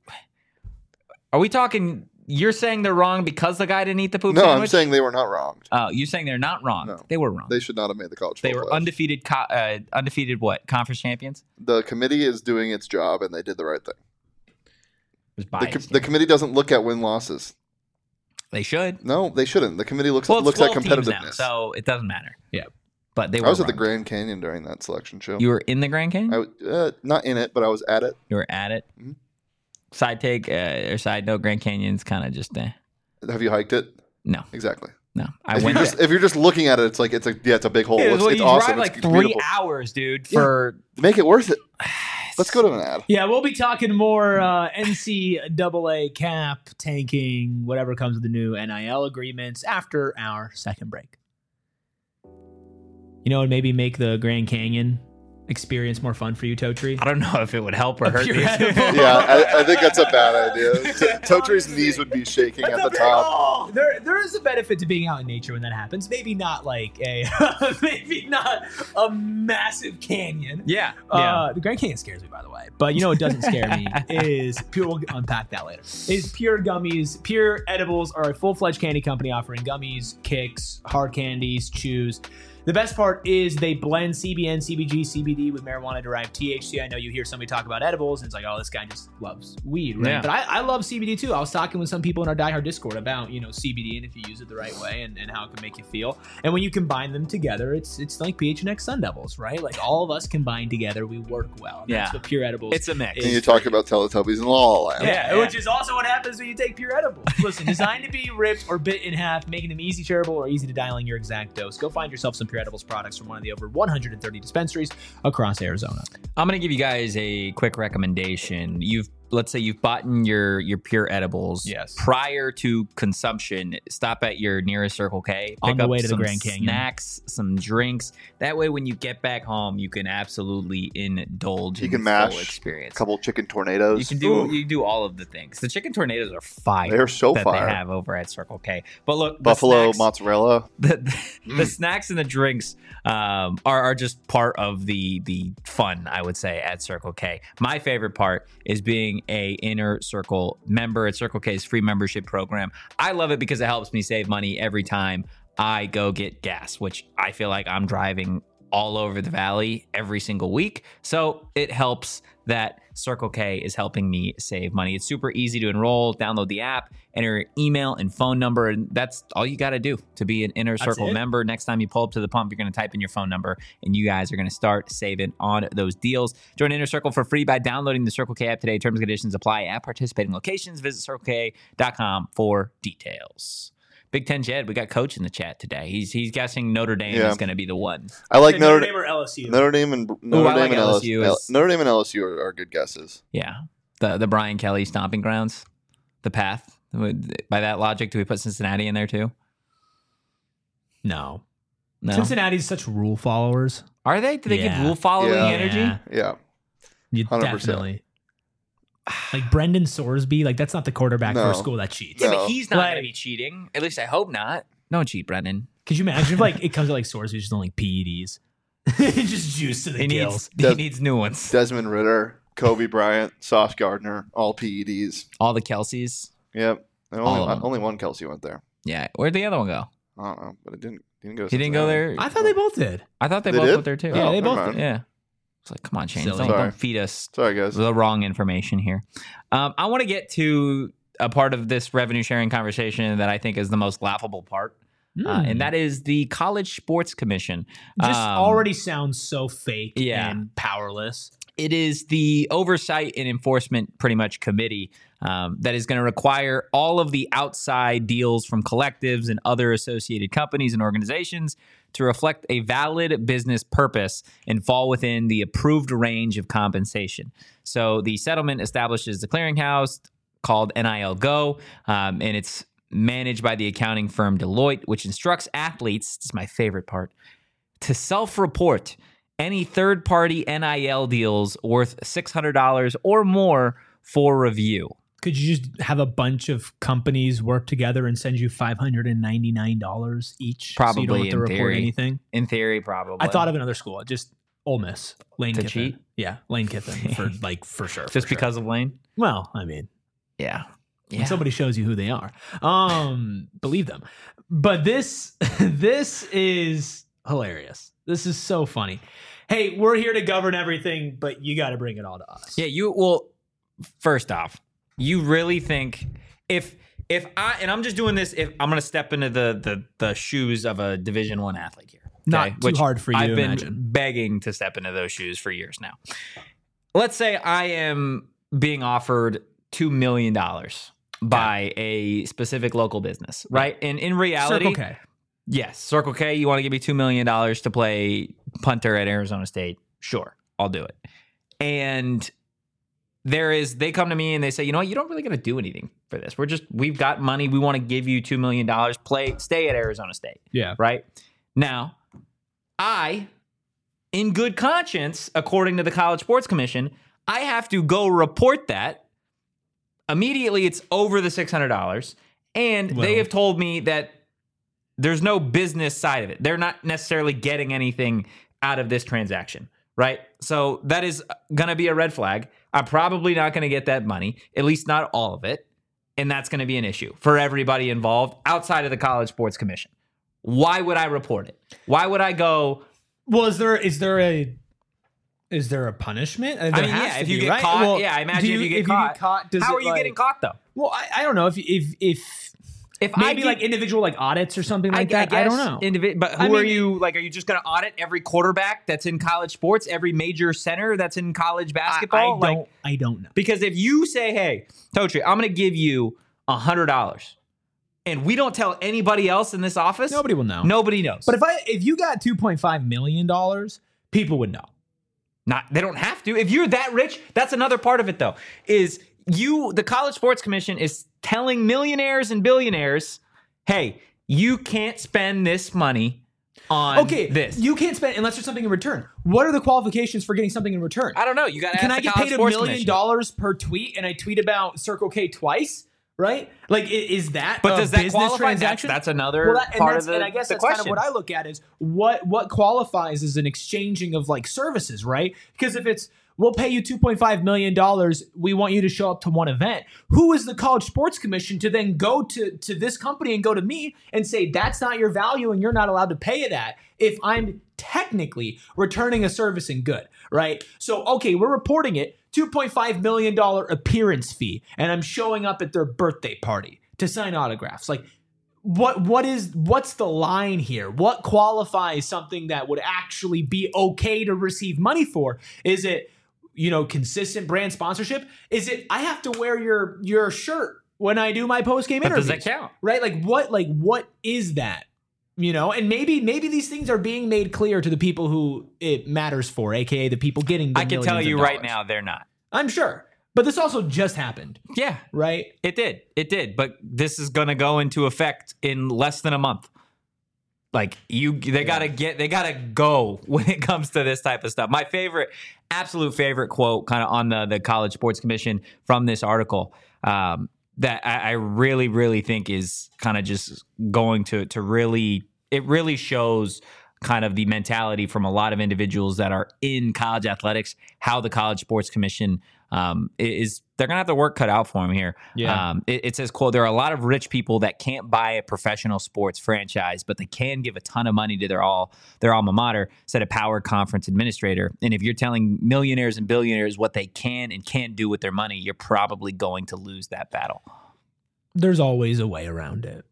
are we talking? You're saying they're wrong because the guy didn't eat the poop No, sandwich? I'm saying they were not wronged. Oh, you're saying they're not wrong. No. They were wrong. They should not have made the college They football were playoffs. undefeated. Co- uh, undefeated what? Conference champions. The committee is doing its job, and they did the right thing. It was The, biased. com- the committee doesn't look at win losses. they should. No, they shouldn't. The committee looks Well, it's looks at twelve teams now, competitiveness. so it doesn't matter. Yeah. But they were. I was at the wrong. Grand Canyon during that selection show. You were in the Grand Canyon. I w- uh, not in it, but I was at it. you were at it. Mhm. Side take uh, or side note: Grand Canyon's kind of just eh. Have you hiked it? No, Exactly. no. I If went. you're just if you're just looking at it, it's like it's a yeah, it's a big hole. Yeah, it's well, it's you awesome. drive like it's three beautiful. hours, dude, Yeah. for Make it worth it. Let's go to an ad. Yeah, we'll be talking more uh, N C double A cap, tanking, whatever comes with the new N I L agreements after our second break. You know, and maybe make the Grand Canyon experience more fun for you, Totri. I don't know if it would help or hurt pure these. edible. Yeah, I, I think that's a bad idea. T- Totri's knees would be shaking at the top. Oh, there, there is a benefit to being out in nature when that happens. Maybe not like a, maybe not a massive canyon. Yeah, yeah. Uh, the Grand Canyon scares me, by the way. But you know what doesn't scare me is pure. We'll unpack that later. Is Pure Gummies. Pure Edibles are a full-fledged candy company offering gummies, kicks, hard candies, chews. The best part is they blend C B N, C B G, C B D with marijuana-derived T H C. I know you hear somebody talk about edibles, and it's like, oh, this guy just loves weed, right? Yeah. But I, I love C B D too. I was talking with some people in our Die Hard Discord about, you know, C B D and if you use it the right way and, and how it can make you feel. And when you combine them together, it's it's like P H N X Sun Devils, right? Like all of us combined together, we work well. And Yeah. That's what Pure Edibles It's a mix. is And you for talk about Teletubbies and La La Land. yeah, Yeah, which is also what happens when you take Pure Edibles. Listen, designed to be ripped or bit in half, making them easy shareable or easy to dial in your exact dose. Go find yourself some Pure Edibles products from one of the over one hundred thirty dispensaries across Arizona. I'm going to give you guys a quick recommendation. You've let's say you've bought in your your pure edibles. Yes. Prior to consumption, stop at your nearest Circle K. On Pick the up way to the some Grand Canyon. snacks, some drinks. That way, when you get back home, you can absolutely indulge You in can the full mash experience. A couple chicken tornadoes. You can do Ooh. you do all of the things. The chicken tornadoes are fire. They're so that fire. they have over at Circle K. But look, the Buffalo snacks- mozzarella. the, the, the snacks and the drinks um, are, are just part of the the fun, I would say, at Circle K. My favorite part is being a Inner Circle member at Circle K's free membership program. I love it because it helps me save money every time I go get gas, which I feel like I'm driving all over the valley every single week. So it helps that Circle K is helping me save money. It's super easy to enroll. Download the app, enter your email and phone number, and that's all you got to do to be an Inner Circle it? member. Next time you pull up to the pump, you're going to type in your phone number, and you guys are going to start saving on those deals. Join Inner Circle for free by downloading the Circle K app today. Terms and conditions apply at participating locations. Visit circle k dot com for details. Big Ten Jed, we got Coach in the chat today. He's he's guessing Notre Dame Yeah. is going to be the one. I like Okay, Notre, Notre Dame or L S U? Notre Dame and Notre I Dame like and L S U L S U. is- Notre Dame and L S U are, are good guesses. Yeah, the the Brian Kelly stomping grounds, the path. By that logic, do we put Cincinnati in there too? No. No, Cincinnati's such rule followers. are they? Do they Yeah. give rule following Yeah. energy? Yeah. Yeah, You one hundred percent. definitely. Like Brendan Sorsby, like that's not the quarterback for No. a school that cheats. Yeah, No. but he's not Like- going to be cheating. At least I hope not. Don't cheat, Brendan. Could you imagine if like it comes to like Sorsby just on like P E Ds? Just juice to the He gills. needs he Des- needs new ones. Desmond Ritter, Kobe Bryant, Sauce Gardner, all P E Ds. All the Kelseys. Yep. And All only, of them. only one Kelsey went there. Yeah, where'd the other one go? I don't know, but it didn't didn't go. to He didn't go Cincinnati. there. I thought they both did. I thought they, They both did? went there too. Yeah, Oh, they never both mind. did. Yeah. It's like, come on, Shane. Silly. Don't, Sorry. don't feed us Sorry, guys. the wrong information here. Um, I want to get to a part of this revenue sharing conversation that I think is the most laughable part, uh, Hmm. and that is the College Sports Commission. just Um, already sounds so fake yeah. and powerless. It is the Oversight and Enforcement, pretty much, committee um, that is going to require all of the outside deals from collectives and other associated companies and organizations to reflect a valid business purpose and fall within the approved range of compensation. So the settlement establishes the clearinghouse called N I L Go, um, and it's managed by the accounting firm Deloitte, which instructs athletes, this is my favorite part, to self-report any third-party N I L deals worth six hundred dollars or more for review. Could you just have a bunch of companies work together and send you five hundred ninety-nine dollars each? so you don't Probably have to in report theory. anything. In theory, probably. I thought of another school, just Ole Miss, Lane To Kiffin. cheat? Yeah, Lane Kiffin for like for sure. just for sure. because of Lane. Well, I mean, Yeah, when yeah. somebody shows you who they are, um, believe them. But this this is hilarious. This is so funny. Hey, we're here to govern everything, but you got to bring it all to us. Yeah, you well. First off, you really think if if I and I'm just doing this if I'm going to step into the the the shoes of a Division One athlete here, Not too hard for you I've to been imagine. begging to step into those shoes for years now. Let's say I am being offered two million dollars by a specific local business, right? And in reality, Circle K. yes, Circle K, you want to give me two million dollars to play punter at Arizona State? Sure, I'll do it. And there is, they come to me and they say, you know what, you don't really got to do anything for this. We're just, we've got money. We want to give you two million dollars. Play, stay at Arizona State, Yeah. right? Now, I, in good conscience, according to the College Sports Commission, I have to go report that. Immediately, it's over the six hundred dollars. And Well- they have told me that there's no business side of it. They're not necessarily getting anything out of this transaction, right? So that is going to be a red flag. I'm probably not going to get that money, at least not all of it. And that's going to be an issue for everybody involved outside of the College Sports Commission. Why would I report it? Why would I go? Well, is there is there a is there a punishment? There I mean, has yeah, to if you be, get right? caught, Well, yeah, I imagine do if you get if caught, you get caught, does how it, are you like- getting caught though? Well, I, I don't know if if if If maybe I like get- individual like audits or something like I, that. I, I, guess don't know. indivi- but who I are mean, you? Like, are you just going to audit every quarterback that's in college sports, every major center that's in college I, I basketball? don't. like, I don't know. because if you say, "Hey, Totri, I'm going to give you a hundred dollars," and we don't tell anybody else in this office, Nobody will know. nobody knows. But if I if you got two point five million dollars, people would know. Not they don't have to. If you're that rich, that's another part of it though. Is you, the College Sports Commission, is telling millionaires and billionaires, hey, you can't spend this money on okay, this. You can't spend unless there's something in return. What are the qualifications for getting something in return? I don't know. You got to Can ask I the get College paid a Sports million Commission. dollars per tweet and I tweet about Circle K twice? Right? Like, i- is that But a does that business qualify? That's, transaction? that's another Well, that, and, part that's, of the and I guess the that's question. kind of what I look at is what what qualifies as an exchanging of like services, right? Because if it's we'll pay you two point five million dollars, we want you to show up to one event. Who is the College Sports Commission to then go to to this company and go to me and say that's not your value and you're not allowed to pay that if I'm technically returning a service and good, right? So okay, we're reporting it two point five million dollars appearance fee, and I'm showing up at their birthday party to sign autographs. Like, what what is what's the line here? What qualifies something that would actually be okay to receive money for? Is it, you know, consistent brand sponsorship? Is it I have to wear your your shirt when I do my post game But interviews? does that count? Right? Like what like what is that? You know, and maybe maybe these things are being made clear to the people who it matters for, aka the people getting the I can tell millions of you right dollars. now, they're not. I'm sure. But this also just happened, Yeah, right? it did. It did. But this is going to go into effect in less than a month. Like you, they gotta get, they gotta go when it comes to this type of stuff. My favorite, absolute favorite quote, kind of on the the College Sports Commission from this article, um, that I, I really, really think is kind of just going to to really, it really shows kind of the mentality from a lot of individuals that are in college athletics, how the College Sports Commission um, is, they're going to have their work cut out for them here. Yeah. Um, it, it says, quote, there are a lot of rich people that can't buy a professional sports franchise, but they can give a ton of money to their all their alma mater, said a Power Conference administrator. And if you're telling millionaires and billionaires what they can and can't do with their money, you're probably going to lose that battle. There's always a way around it.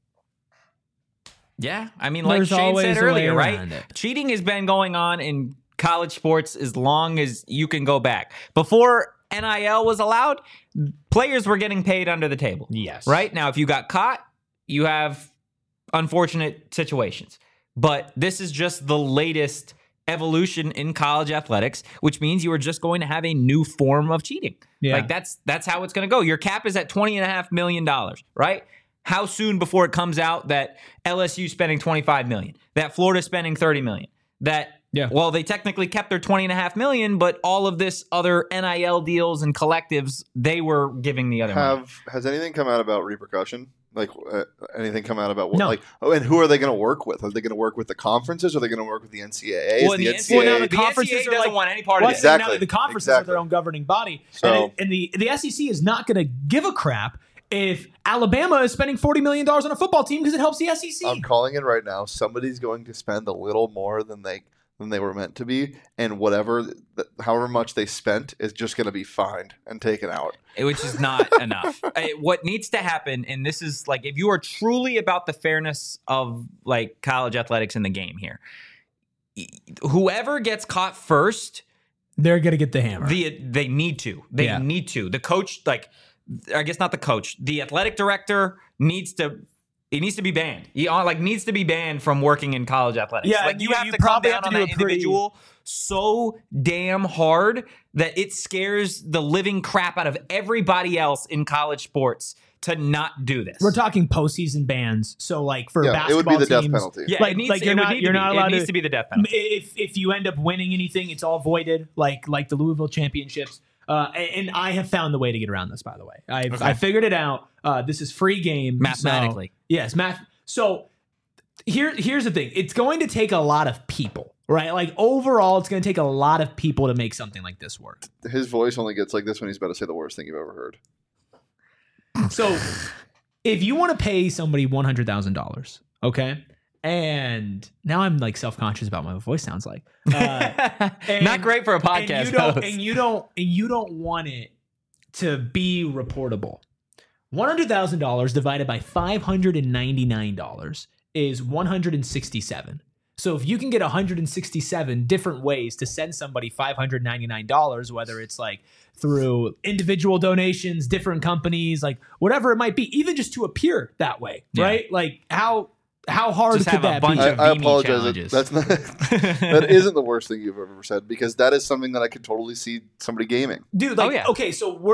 Yeah, I mean, like There's Shane always said a way earlier, right? around it. Cheating has been going on in college sports as long as you can go back. Before N I L was allowed, players were getting paid under the table. Yes. Right? Now, if you got caught, you have unfortunate situations. But this is just the latest evolution in college athletics, which means you are just going to have a new form of cheating. Yeah. Like that's that's how it's going to go. Your cap is at twenty and a half million dollars, right? How soon before it comes out that L S U spending twenty-five million, that Florida spending thirty million, that Yeah. well, they technically kept their twenty and a half million, but all of this other N I L deals and collectives, they were giving the other money. Have has anything come out about repercussion? Like uh, anything come out about what? No. Like oh, and who are they going to work with? Are they going to work with the conferences? Or are they going to work with the N C double A? Is Well, the the N C double A Well, now the the conferences N C double A are doesn't like- want any part Well, of it. Exactly. now the conferences Exactly. are their own governing body, So- and, it, and the the S E C is not going to give a crap if Alabama is spending forty million dollars on a football team because it helps the S E C. I'm calling it right now. Somebody's going to spend a little more than they than they were meant to be, and whatever, th- however much they spent, is just going to be fined and taken out. Which is not enough. Uh, What needs to happen, and this is like, if you are truly about the fairness of like college athletics in the game here, y- whoever gets caught first, They're going to get the hammer. the they need to. They Yeah. need to. The coach, like, I guess not the coach. The athletic director needs to. It needs to be banned. He uh, like needs to be banned from working in college athletics. Yeah, like you, you- have you to come probably down have to on do that a pretty- individual so damn hard that it scares the living crap out of everybody else in college sports to not do this. We're talking postseason bans. So, like for Yeah, it basketball would be the death teams, penalty. yeah, like- it needs, like it you're would not- need you're to not be. allowed It needs to- to be the death penalty. If if you end up winning anything, it's all voided, like like the Louisville championships. Uh, and, and I have found the way to get around this. By the way, I've Okay. I figured it out. Uh, this is free game so- Mathematically. yes, math. So here here's the thing. It's going to take a lot of people, right? Like overall, it's going to take a lot of people to make something like this work. His voice only gets like this when he's about to say the worst thing you've ever heard. So if you want to pay somebody one hundred thousand dollars, okay. And now I'm like self-conscious about what my voice sounds like. Uh, and- not great for a and podcast you don't, host. and you don't, and you don't want it to be reportable. One hundred thousand dollars divided by five hundred and ninety-nine dollars is one hundred and sixty-seven. So if you can get one hundred and sixty-seven different ways to send somebody five hundred ninety-nine dollars, whether it's like through individual donations, different companies, like whatever it might be, even just to appear that way, Yeah. right? Like how how hard Just could have a that bunch be? of- I, I Vimy apologize. challenges. That's not. That isn't the worst thing you've ever said, because that is something that I could totally see somebody gaming. Dude, like Oh, yeah. okay, so we're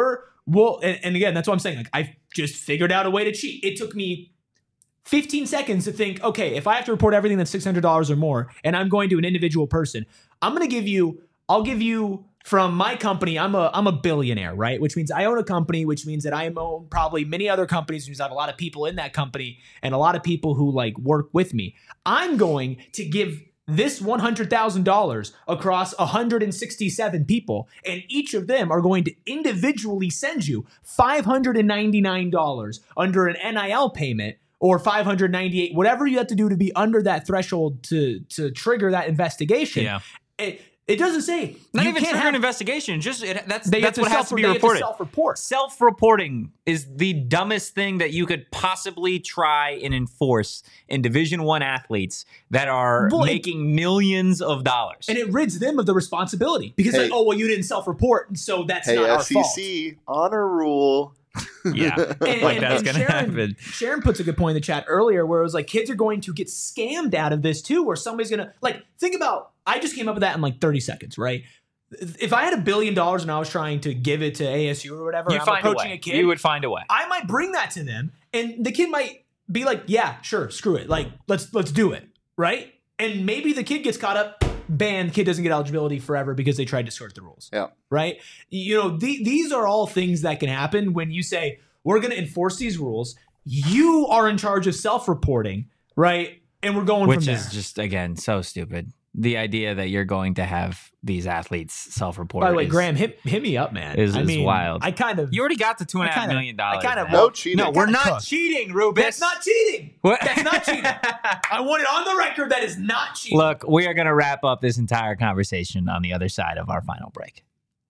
Well, and, and again, that's what I'm saying. Like, I just figured out a way to cheat. It took me fifteen seconds to think, okay, if I have to report everything that's six hundred dollars or more, and I'm going to an individual person, I'm going to give you, I'll give you from my company, I'm a I'm a billionaire, right? Which means I own a company, which means that I own probably many other companies, which means I have a lot of people in that company and a lot of people who like work with me. I'm going to give this one hundred thousand dollars across one hundred sixty-seven people, and each of them are going to individually send you five hundred ninety-nine dollars under an N I L payment, or five hundred ninety-eight dollars, whatever you have to do to be under that threshold to, to trigger that investigation. Yeah. It, It doesn't say. Not you even can't trigger have, an investigation. Just it, that's they that's have what to has to be self- they reported. Have to self-report. Self-reporting is the dumbest thing that you could possibly try and enforce in Division One athletes that are Well, it- making millions of dollars. And it rids them of the responsibility because Hey. like, oh well, you didn't self-report, and so that's Hey, not our S E fault. C honor rule. yeah, And, like and- that's and gonna Sharon, happen. Sharon puts a good point in the chat earlier where it was like kids are going to get scammed out of this too, where somebody's gonna like think about. I just came up with that in like thirty seconds, right? If I had a billion dollars and I was trying to give it to A S U or whatever, You and I'm find a approaching way. a kid, You would find a way. I might bring that to them, and the kid might be like, "Yeah, sure, screw it. Like, let's let's do it, right?" And maybe the kid gets caught up, banned. Kid doesn't get eligibility forever because they tried to skirt the rules. Yeah. Right. You know, the, these are all things that can happen when you say we're going to enforce these rules. You are in charge of self-reporting, right? And we're going Which from is there. just again so stupid. The idea that you're going to have these athletes self-report. By the way, is, Graham, hit hit me up, man. is- I is mean, wild. I kind of You already got the two and a I half kinda- million dollars. I kinda man. No cheating. No, we're kinda not cooked. cheating, Rubens. That's not cheating. What? That's not cheating. I want it on the record. That is not cheating. Look, we are going to wrap up this entire conversation on the other side of our final break.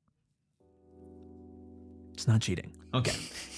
It's not cheating. Okay.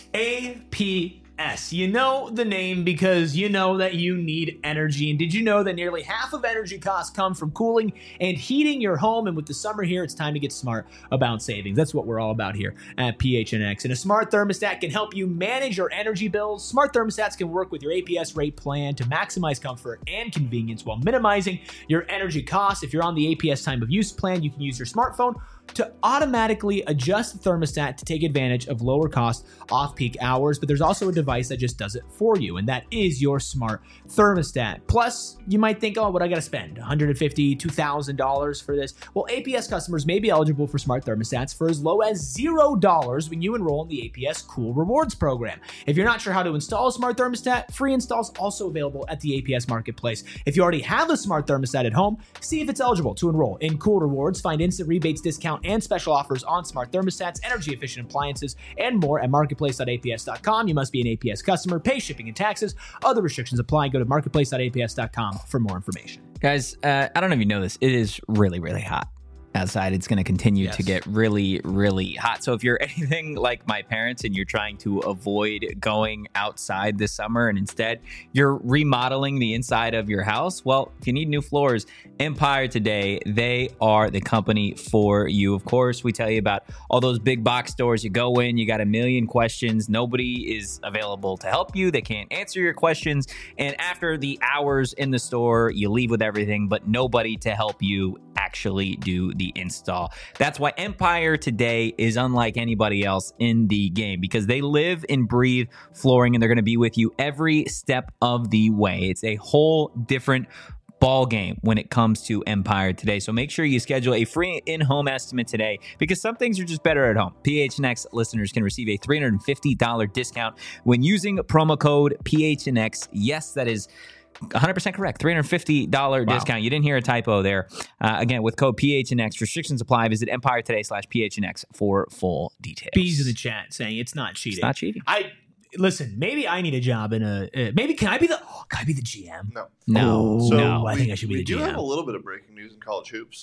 A P S. You know the name because you know that you need energy. And did you know that nearly half of energy costs come from cooling and heating your home? And with the summer here, it's time to get smart about savings. That's what we're all about here at P H N X. And a smart thermostat can help you manage your energy bills. Smart thermostats can work with your A P S rate plan to maximize comfort and convenience while minimizing your energy costs. If you're on the A P S time of use plan, you can use your smartphone to automatically adjust the thermostat to take advantage of lower cost off-peak hours, but there's also a device that just does it for you, and that is your smart thermostat. Plus, you might think, oh, what I gotta spend? one hundred fifty dollars, two thousand dollars for this? Well, A P S customers may be eligible for smart thermostats for as low as zero dollars when you enroll in the A P S Cool Rewards program. If you're not sure how to install a smart thermostat, free installs also available at the A P S Marketplace. If you already have a smart thermostat at home, see if it's eligible to enroll in Cool Rewards. Find instant rebates, discount, and special offers on smart thermostats, energy efficient appliances, and more at marketplace dot A P S dot com. You must be an A P S customer, pay shipping and taxes. Other restrictions apply. Go to marketplace dot A P S dot com for more information. Guys, uh, I don't know if you know this. It is really, really hot outside. It's going to continue Yes. to get really, really hot. So if you're anything like my parents and you're trying to avoid going outside this summer and instead you're remodeling the inside of your house, well, if you need new floors, Empire Today, they are the company for you. Of course, we tell you about all those big box stores. You go in, you got a million questions. Nobody is available to help you. They can't answer your questions. And after the hours in the store, you leave with everything, but nobody to help you actually do the install. That's why Empire Today is unlike anybody else in the game, because they live and breathe flooring, and they're going to be with you every step of the way. It's a whole different ball game when it comes to Empire Today. So make sure you schedule a free in-home estimate today, because some things are just better at home. P H N X listeners can receive a three hundred fifty dollars discount when using promo code P H N X. Yes, that is one hundred percent correct. three hundred fifty dollars Wow. discount. You didn't hear a typo there. Uh, again, with code P H N X. Restrictions apply. Visit Empire Today slash P H N X for full details. Bees in the chat saying it's not cheating. It's not cheating. I listen. Maybe I need a job in a. Uh, maybe can I be the? Oh, can I be the G M? No. No. Oh, So no. I we, think I should be we the do G M. have a little bit of breaking news in college hoops.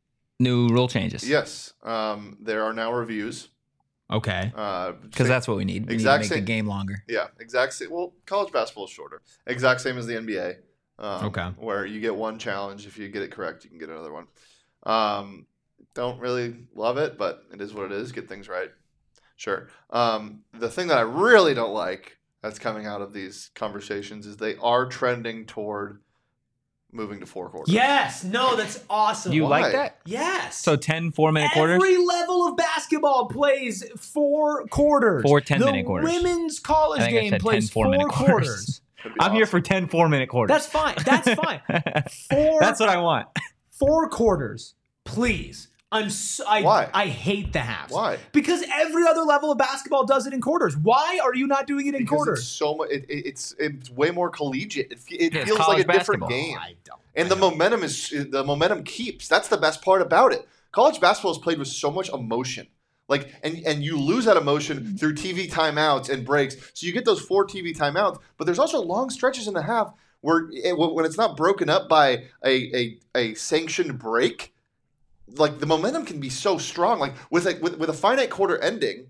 New rule changes. Yes. Um, there are now reviews. Okay. Uh, Because that's what we need. We Exact need to make same- the game longer. Yeah, exact same. Well, college basketball is shorter. Exact same as the N B A. Um, Okay. Where you get one challenge. If you get it correct, you can get another one. Um, don't really love it, but it is what it is. Get things right. Sure. Um, the thing that I really don't like that's coming out of these conversations is they are trending toward moving to four quarters. Yes. No, that's awesome. You Why? like that? Yes. So ten four-minute quarters? Every level of basketball plays four quarters. Four ten-minute the quarters. women's college I think I game said plays ten four-minute four quarters. quarters. That'd be I'm here awesome. for ten four-minute quarters. That's fine. That's fine. Four. That's what I want. Four quarters, please. I'm so, I, Why? I hate the halves. Why? Because every other level of basketball does it in quarters. Why are you not doing it in Because quarters? it's so much. It, it- it's it's way more collegiate. It, fe- it Yeah, it's feels like college a different basketball. game, I don't. and the momentum is the momentum keeps. That's the best part about it. College basketball is played with so much emotion. Like and and you lose that emotion through T V timeouts and breaks. So you get those four T V timeouts, but there's also long stretches in the half where it, when it's not broken up by a a, a sanctioned break. Like the momentum can be so strong. Like with a with, with a finite quarter ending,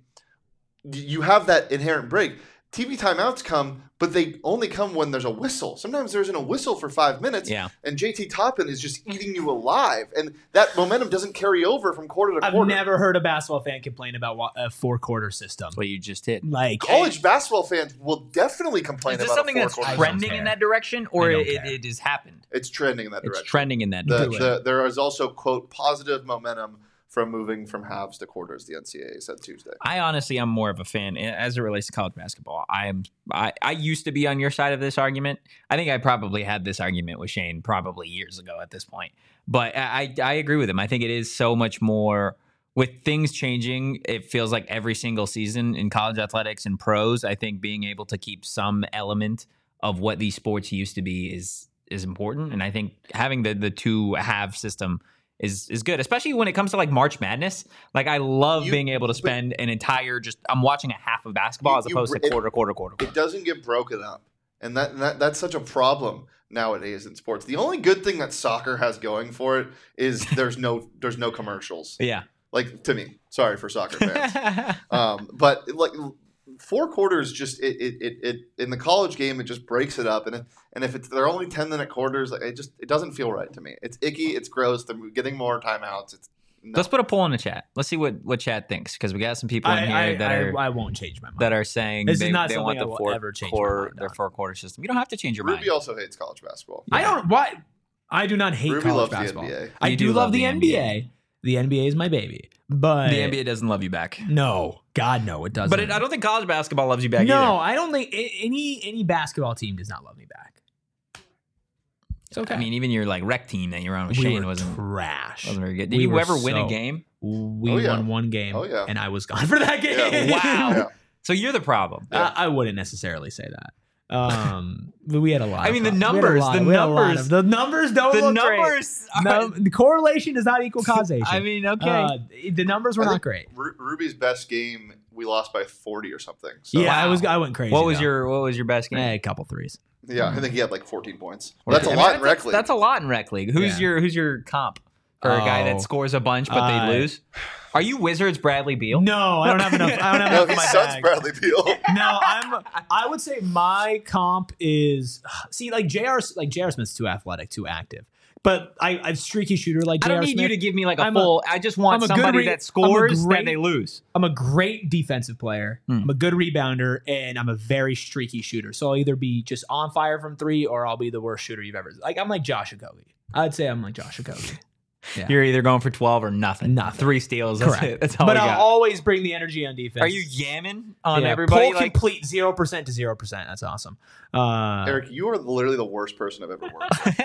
you have that inherent break. T V timeouts come, but they only come when there's a whistle. Sometimes there isn't a whistle for five minutes, Yeah. and J T Toppin is just eating you alive, and that momentum doesn't carry over from quarter to I've quarter. never heard a basketball fan complain about wa- a four quarter system. That's what you just did. Like College basketball fans will definitely complain Is this about something a that's four-quarter trend- trending care. in that direction, or I don't it, care. it has happened? It's trending in that It's direction. trending in that The, direction. the, there is also, quote, positive momentum from moving from halves to quarters, the N C double A said Tuesday. I honestly, I'm more of a fan as it relates to college basketball. I am. I, I used to be on your side of this argument. I think I probably had this argument with Shane probably years ago at this point. But I, I agree with him. I think it is so much more with things changing. It feels like every single season in college athletics and pros, I think being able to keep some element of what these sports used to be is is important. And I think having the the two half system is is good, especially when it comes to like March Madness. Like I love You- being able to spend an entire just I'm watching a half of basketball You- as you- opposed to it- quarter, quarter, quarter, quarter. It doesn't get broken up. And that, that that's such a problem nowadays in sports. The only good thing that soccer has going for it is there's no there's no commercials. Yeah. Like to me. Sorry for soccer fans. um, but like four quarters just it, it, it, it in the college game it just breaks it up and it, and if it's they're only ten minute quarters like it just it doesn't feel right to me. It's icky, it's gross, they're getting more timeouts. It's no. Let's put a poll in the chat. Let's see what, what chat thinks because we got some people in I, here I, that I, are I won't change my mind. that are saying This is they, not they something want I the will four ever change my core mind their on. four quarter system. You don't have to change your Ruby mind. also hates college basketball. I don't. Why? I do not hate Ruby college loves the basketball. N B A. I You do, do love, love the the N B A. N B A. The N B A is my baby, but The N B A doesn't love you back. no, God no, it doesn't. But it, I don't think college basketball loves you back no, either. I don't think a- any any basketball team does not love me back. It's okay. I mean, even your like rec team that you're on with we Shane were wasn't trash. wasn't very good. Did We you were ever win a so- game? We Oh, yeah. won one game, Oh, yeah. and I was gone for that game. Yeah. Wow. Yeah. So you're the problem. Yeah. I, I wouldn't necessarily say that. Um, but we had a lot. I of mean, the problems. We had a numbers, lot- the we had a lot numbers- of- the numbers don't The look great. numbers. Are, No, the correlation does not equal causation. I mean, okay. Uh, the numbers were I not think great. Ru- Ruby's best game we lost by forty or something. So, Yeah, Wow. I was. I went crazy. what was though. your What was your best game? Eh, a couple threes? yeah, I think he had like fourteen points. Or- That's a I mean, lot in that's- rec league. That's a lot in rec league. Who's Yeah. your Who's your comp for a guy Oh. that scores a bunch but Uh, they lose? Are you Wizards Bradley Beal? No, I don't have enough. I don't have No, enough in he my sucks bag. Bradley Beal. No, I'm. I would say my comp is see like J R. Like J R. Smith's too athletic, too active. But I, I'm streaky shooter like I J R. don't need Smith. you to give me like a I'm a- full. I just want I'm a good somebody re- that I'm a scores great- that they lose. I'm a great defensive player. Hmm. I'm a good rebounder, and I'm a very streaky shooter. So I'll either be just on fire from three, or I'll be the worst shooter you've ever. Like I'm like Josh Okogie. I'd say I'm like Josh Okogie. Yeah. You're either going for twelve or nothing. Nothing. Three steals. That's Correct. it. That's all But we I'll got. always bring the energy on defense. Are you yamming on Yeah, everybody? Pull Like, complete zero percent to zero percent. That's awesome. Uh, Eric, you are literally the worst person I've ever worked with.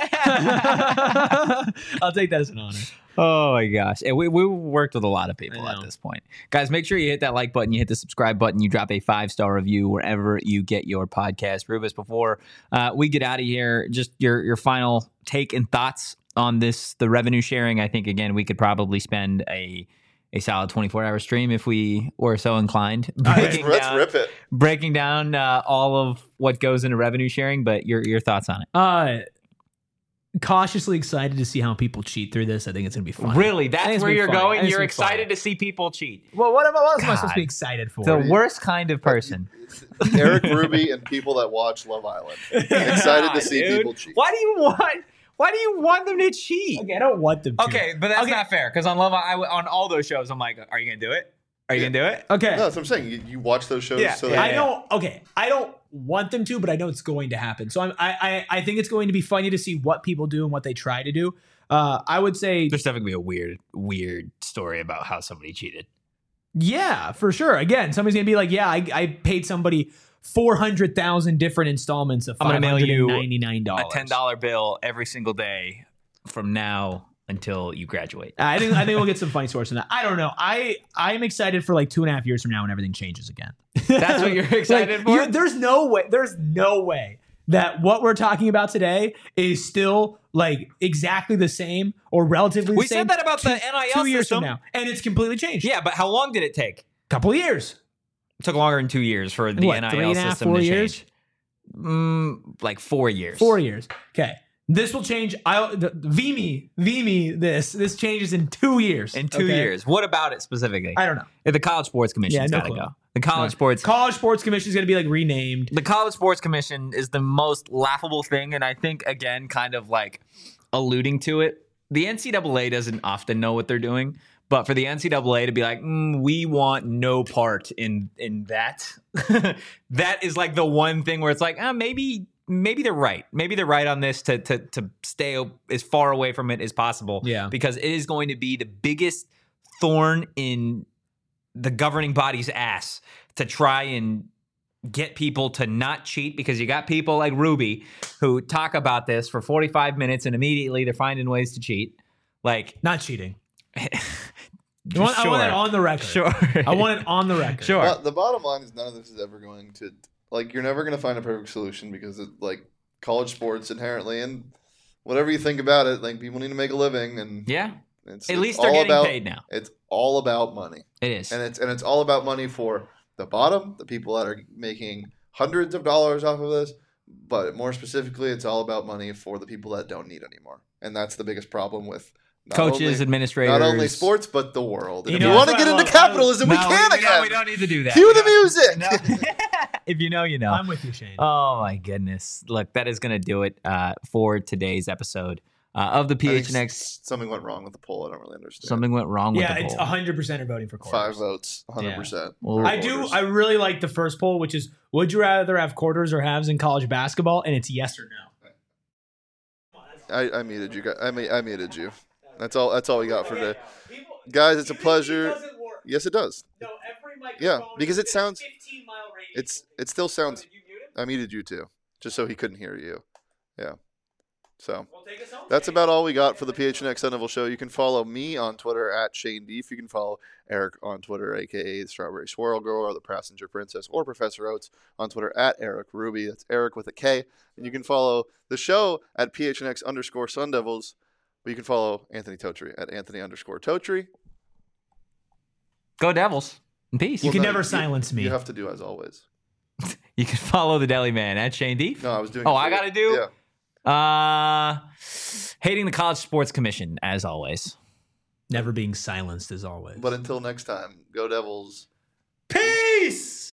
I'll take that as an honor. oh my gosh. And we, we worked with a lot of people I at know. this point. Guys, make sure you hit that like button, you hit the subscribe button, you drop a five-star review wherever you get your podcast. Rubus, before uh, we get out of here, just your your final take and thoughts on this, the revenue sharing. I think, again, we could probably spend a a solid twenty-four hour stream if we were so inclined. Let's, Breaking let's down, rip it. breaking down uh, all of what goes into revenue sharing, but your your thoughts on it. Uh, cautiously excited to see how people cheat through this. I think it's gonna be fun. Really? I think That's it's where gonna you're be fun. I going? think it's You're gonna be fun. excited to see people cheat. Well, what, am I- what else am I supposed to God. be excited for? The worst kind of person. Eric Ruby and people that watch Love Island. Excited to see Dude, people cheat. Why do you want? Why do you want them to cheat? Okay, I don't want them to. Okay, but that's Okay. not fair. Because on Love, I on all those shows, I'm like, are you gonna do it? Are you Yeah. gonna do it? Okay. No, that's what I'm saying. You, you watch those shows Yeah, so yeah, that I don't. Okay, I don't want them to, but I know it's going to happen. So I'm, I, I I think it's going to be funny to see what people do and what they try to do. Uh, I would say, There's definitely gonna be a weird, weird story about how somebody cheated. yeah, for sure. Again, somebody's gonna be like, yeah, I, I paid somebody four hundred thousand different installments of I'm five gonna mail hundred you ninety-nine dollars. A ten dollar bill every single day from now until you graduate. I think I think we'll get some funny stories from that. I don't know. I I'm excited for like two and a half years from now when everything changes again. That's what you're excited Like, for? you- there's no way. There's no way that what we're talking about today is still like exactly the same or relatively the We same. said that about the two- N I L two years system. from now, and it's completely changed. Yeah, but how long did it take? couple of years. It took longer than two years for the What, N I L three and a half, system four to years? change. Mm, like four years. Four years. Okay. This will change. I the, V me, V me. This this changes in two years. In two okay? years. What about it specifically? I don't know. The College Sports Commission's Yeah, no got to clue. go. The College No. Sports College Sports Commission is going to be like renamed. The College Sports Commission is the most laughable thing, and I think again, kind of like alluding to it. The N C double A doesn't often know what they're doing, but for the N C double A to be like, mm, we want no part in in that, that is like the one thing where it's like, ah, maybe maybe they're right. Maybe they're right on this to to to stay as far away from it as possible. Yeah. Because it is going to be the biggest thorn in the governing body's ass to try and get people to not cheat, because you got people like Ruby who talk about this for forty-five minutes and immediately they're finding ways to cheat. Like, Not cheating. I want, I sure. want it on the record. Sure. I want it on the record. Sure. But the bottom line is none of this is ever going to like you're never going to find a perfect solution because it, like college sports inherently and whatever you think about it, like people need to make a living and Yeah. it's, At it's least they're all getting about, paid now. It's all about money. It is. And it's and it's all about money for the bottom, the people that are making hundreds of dollars off of this, but more specifically it's all about money for the people that don't need anymore. And that's the biggest problem with not Coaches, only, administrators. not only sports but the world. And You if know, you want to that's get what I into love. capitalism, No, we can we, again. No, we don't need to do that. Cue We the don't- music. No. If you know, you know. I'm with you, Shane. Oh my goodness! Look, that is going to do it uh, for today's episode uh, of the I think P H N X. s- something went wrong with the poll. I don't really understand. Something went wrong with yeah, the it's poll. one hundred percent are voting for quarters. Five votes, one hundred percent. Well, I do. I really like the first poll, which is, would you rather have quarters or halves in college basketball? And it's yes or no. I, I muted you guys. I, mu- I muted you. That's all. That's all we got for today. Guys, it's a pleasure. Yes, it does. No, every Yeah, microphone because is it sounds- fifteen mile radius. It's it still sounds. Did you mute him? I muted you too, just so he couldn't hear you. Yeah. So Well, take us home, that's Shane. about all we got for the P H N X Sun Devil Show. You can follow me on Twitter at Shane Deef. You can follow Eric on Twitter, aka the Strawberry Swirl Girl or the Passenger Princess, or Professor Oates on Twitter at Eric Ruby. That's Eric with a K. And you can follow the show at P H N X underscore Sun Devils. But you can follow Anthony Totri at Anthony underscore Totri. Go Devils. In peace. You Well, can no, never silence me. You have to do as always. You can follow the Deli Man at Shane Deef. No, I was doing. Oh, it for I you. gotta do? Yeah. Uh, hating the College Sports Commission, as always. Never being silenced as always. But until next time, go Devils. Peace!